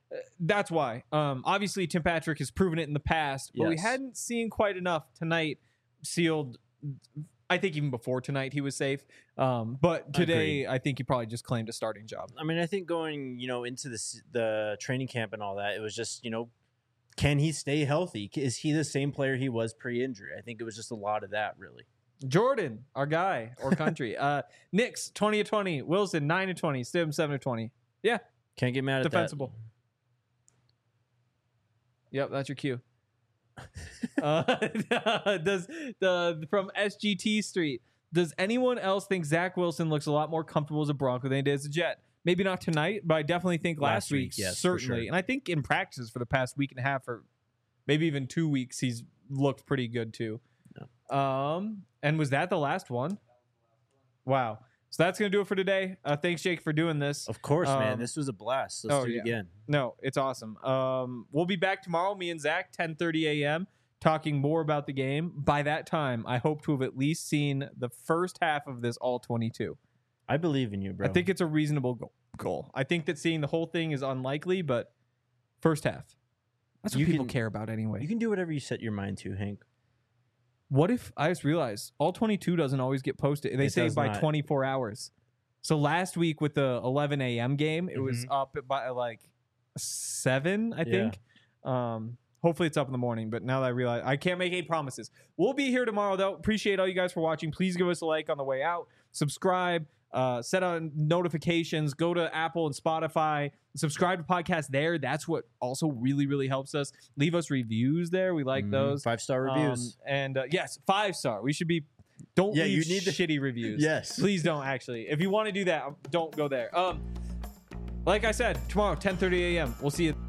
that's why. Um, obviously, Tim Patrick has proven it in the past, but we Yes. hadn't seen quite enough tonight. Sealed. I think even before tonight he was safe. Um, but today, Agreed. I think he probably just claimed a starting job. I mean, I think going, you know, into the s- the training camp and all that, it was just, you know, can he stay healthy? Is he the same player he was pre-injury? I think it was just a lot of that, really. Jordan, our guy or country. uh, Knicks twenty to twenty. Wilson nine to twenty. Stim seven to twenty. Yeah, Can't get mad at defensible. Yep, that's your cue. uh, does the from S G T Street? Does anyone else think Zach Wilson looks a lot more comfortable as a Bronco than he did as a Jet? Maybe not tonight, but I definitely think last, Last week, week, yes, for certainly. sure. And I think in practices for the past week and a half, or maybe even two weeks, he's looked pretty good too. Um, and was that the last one? Wow. So that's gonna do it for today. Uh, thanks, Jake, for doing this. Of course, man. Um, This was a blast. Let's oh, do it yeah. again. No, it's awesome. Um, we'll be back tomorrow, me and Zach, ten thirty a.m., talking more about the game. By that time, I hope to have at least seen the first half of this all twenty-two. I believe in you, bro. I think it's a reasonable go- goal. I think that seeing the whole thing is unlikely, but first half. That's what You people can- care about anyway. you can do whatever you set your mind to, Hank. What if, I just realized, all twenty-two doesn't always get posted. They It say does by not. twenty-four hours. So last week with the eleven a.m. game, it was Mm-hmm. up by like seven, I think. Um, hopefully it's up in the morning, but now that I realize, I can't make any promises. We'll be here tomorrow, though. Appreciate all you guys for watching. Please give us a like on the way out. Subscribe. Uh, set on notifications. Go to Apple and Spotify. Subscribe to podcast there. That's what also really, really helps us. Leave us reviews there. We like Mhm. those. Five-star reviews. Um, and uh, yes, five star. We should be. Don't Yeah, leave you need to- shitty reviews. Yes. Please don't actually. If you want to do that, don't go there. Um, like I said, tomorrow, ten thirty a.m. We'll see you.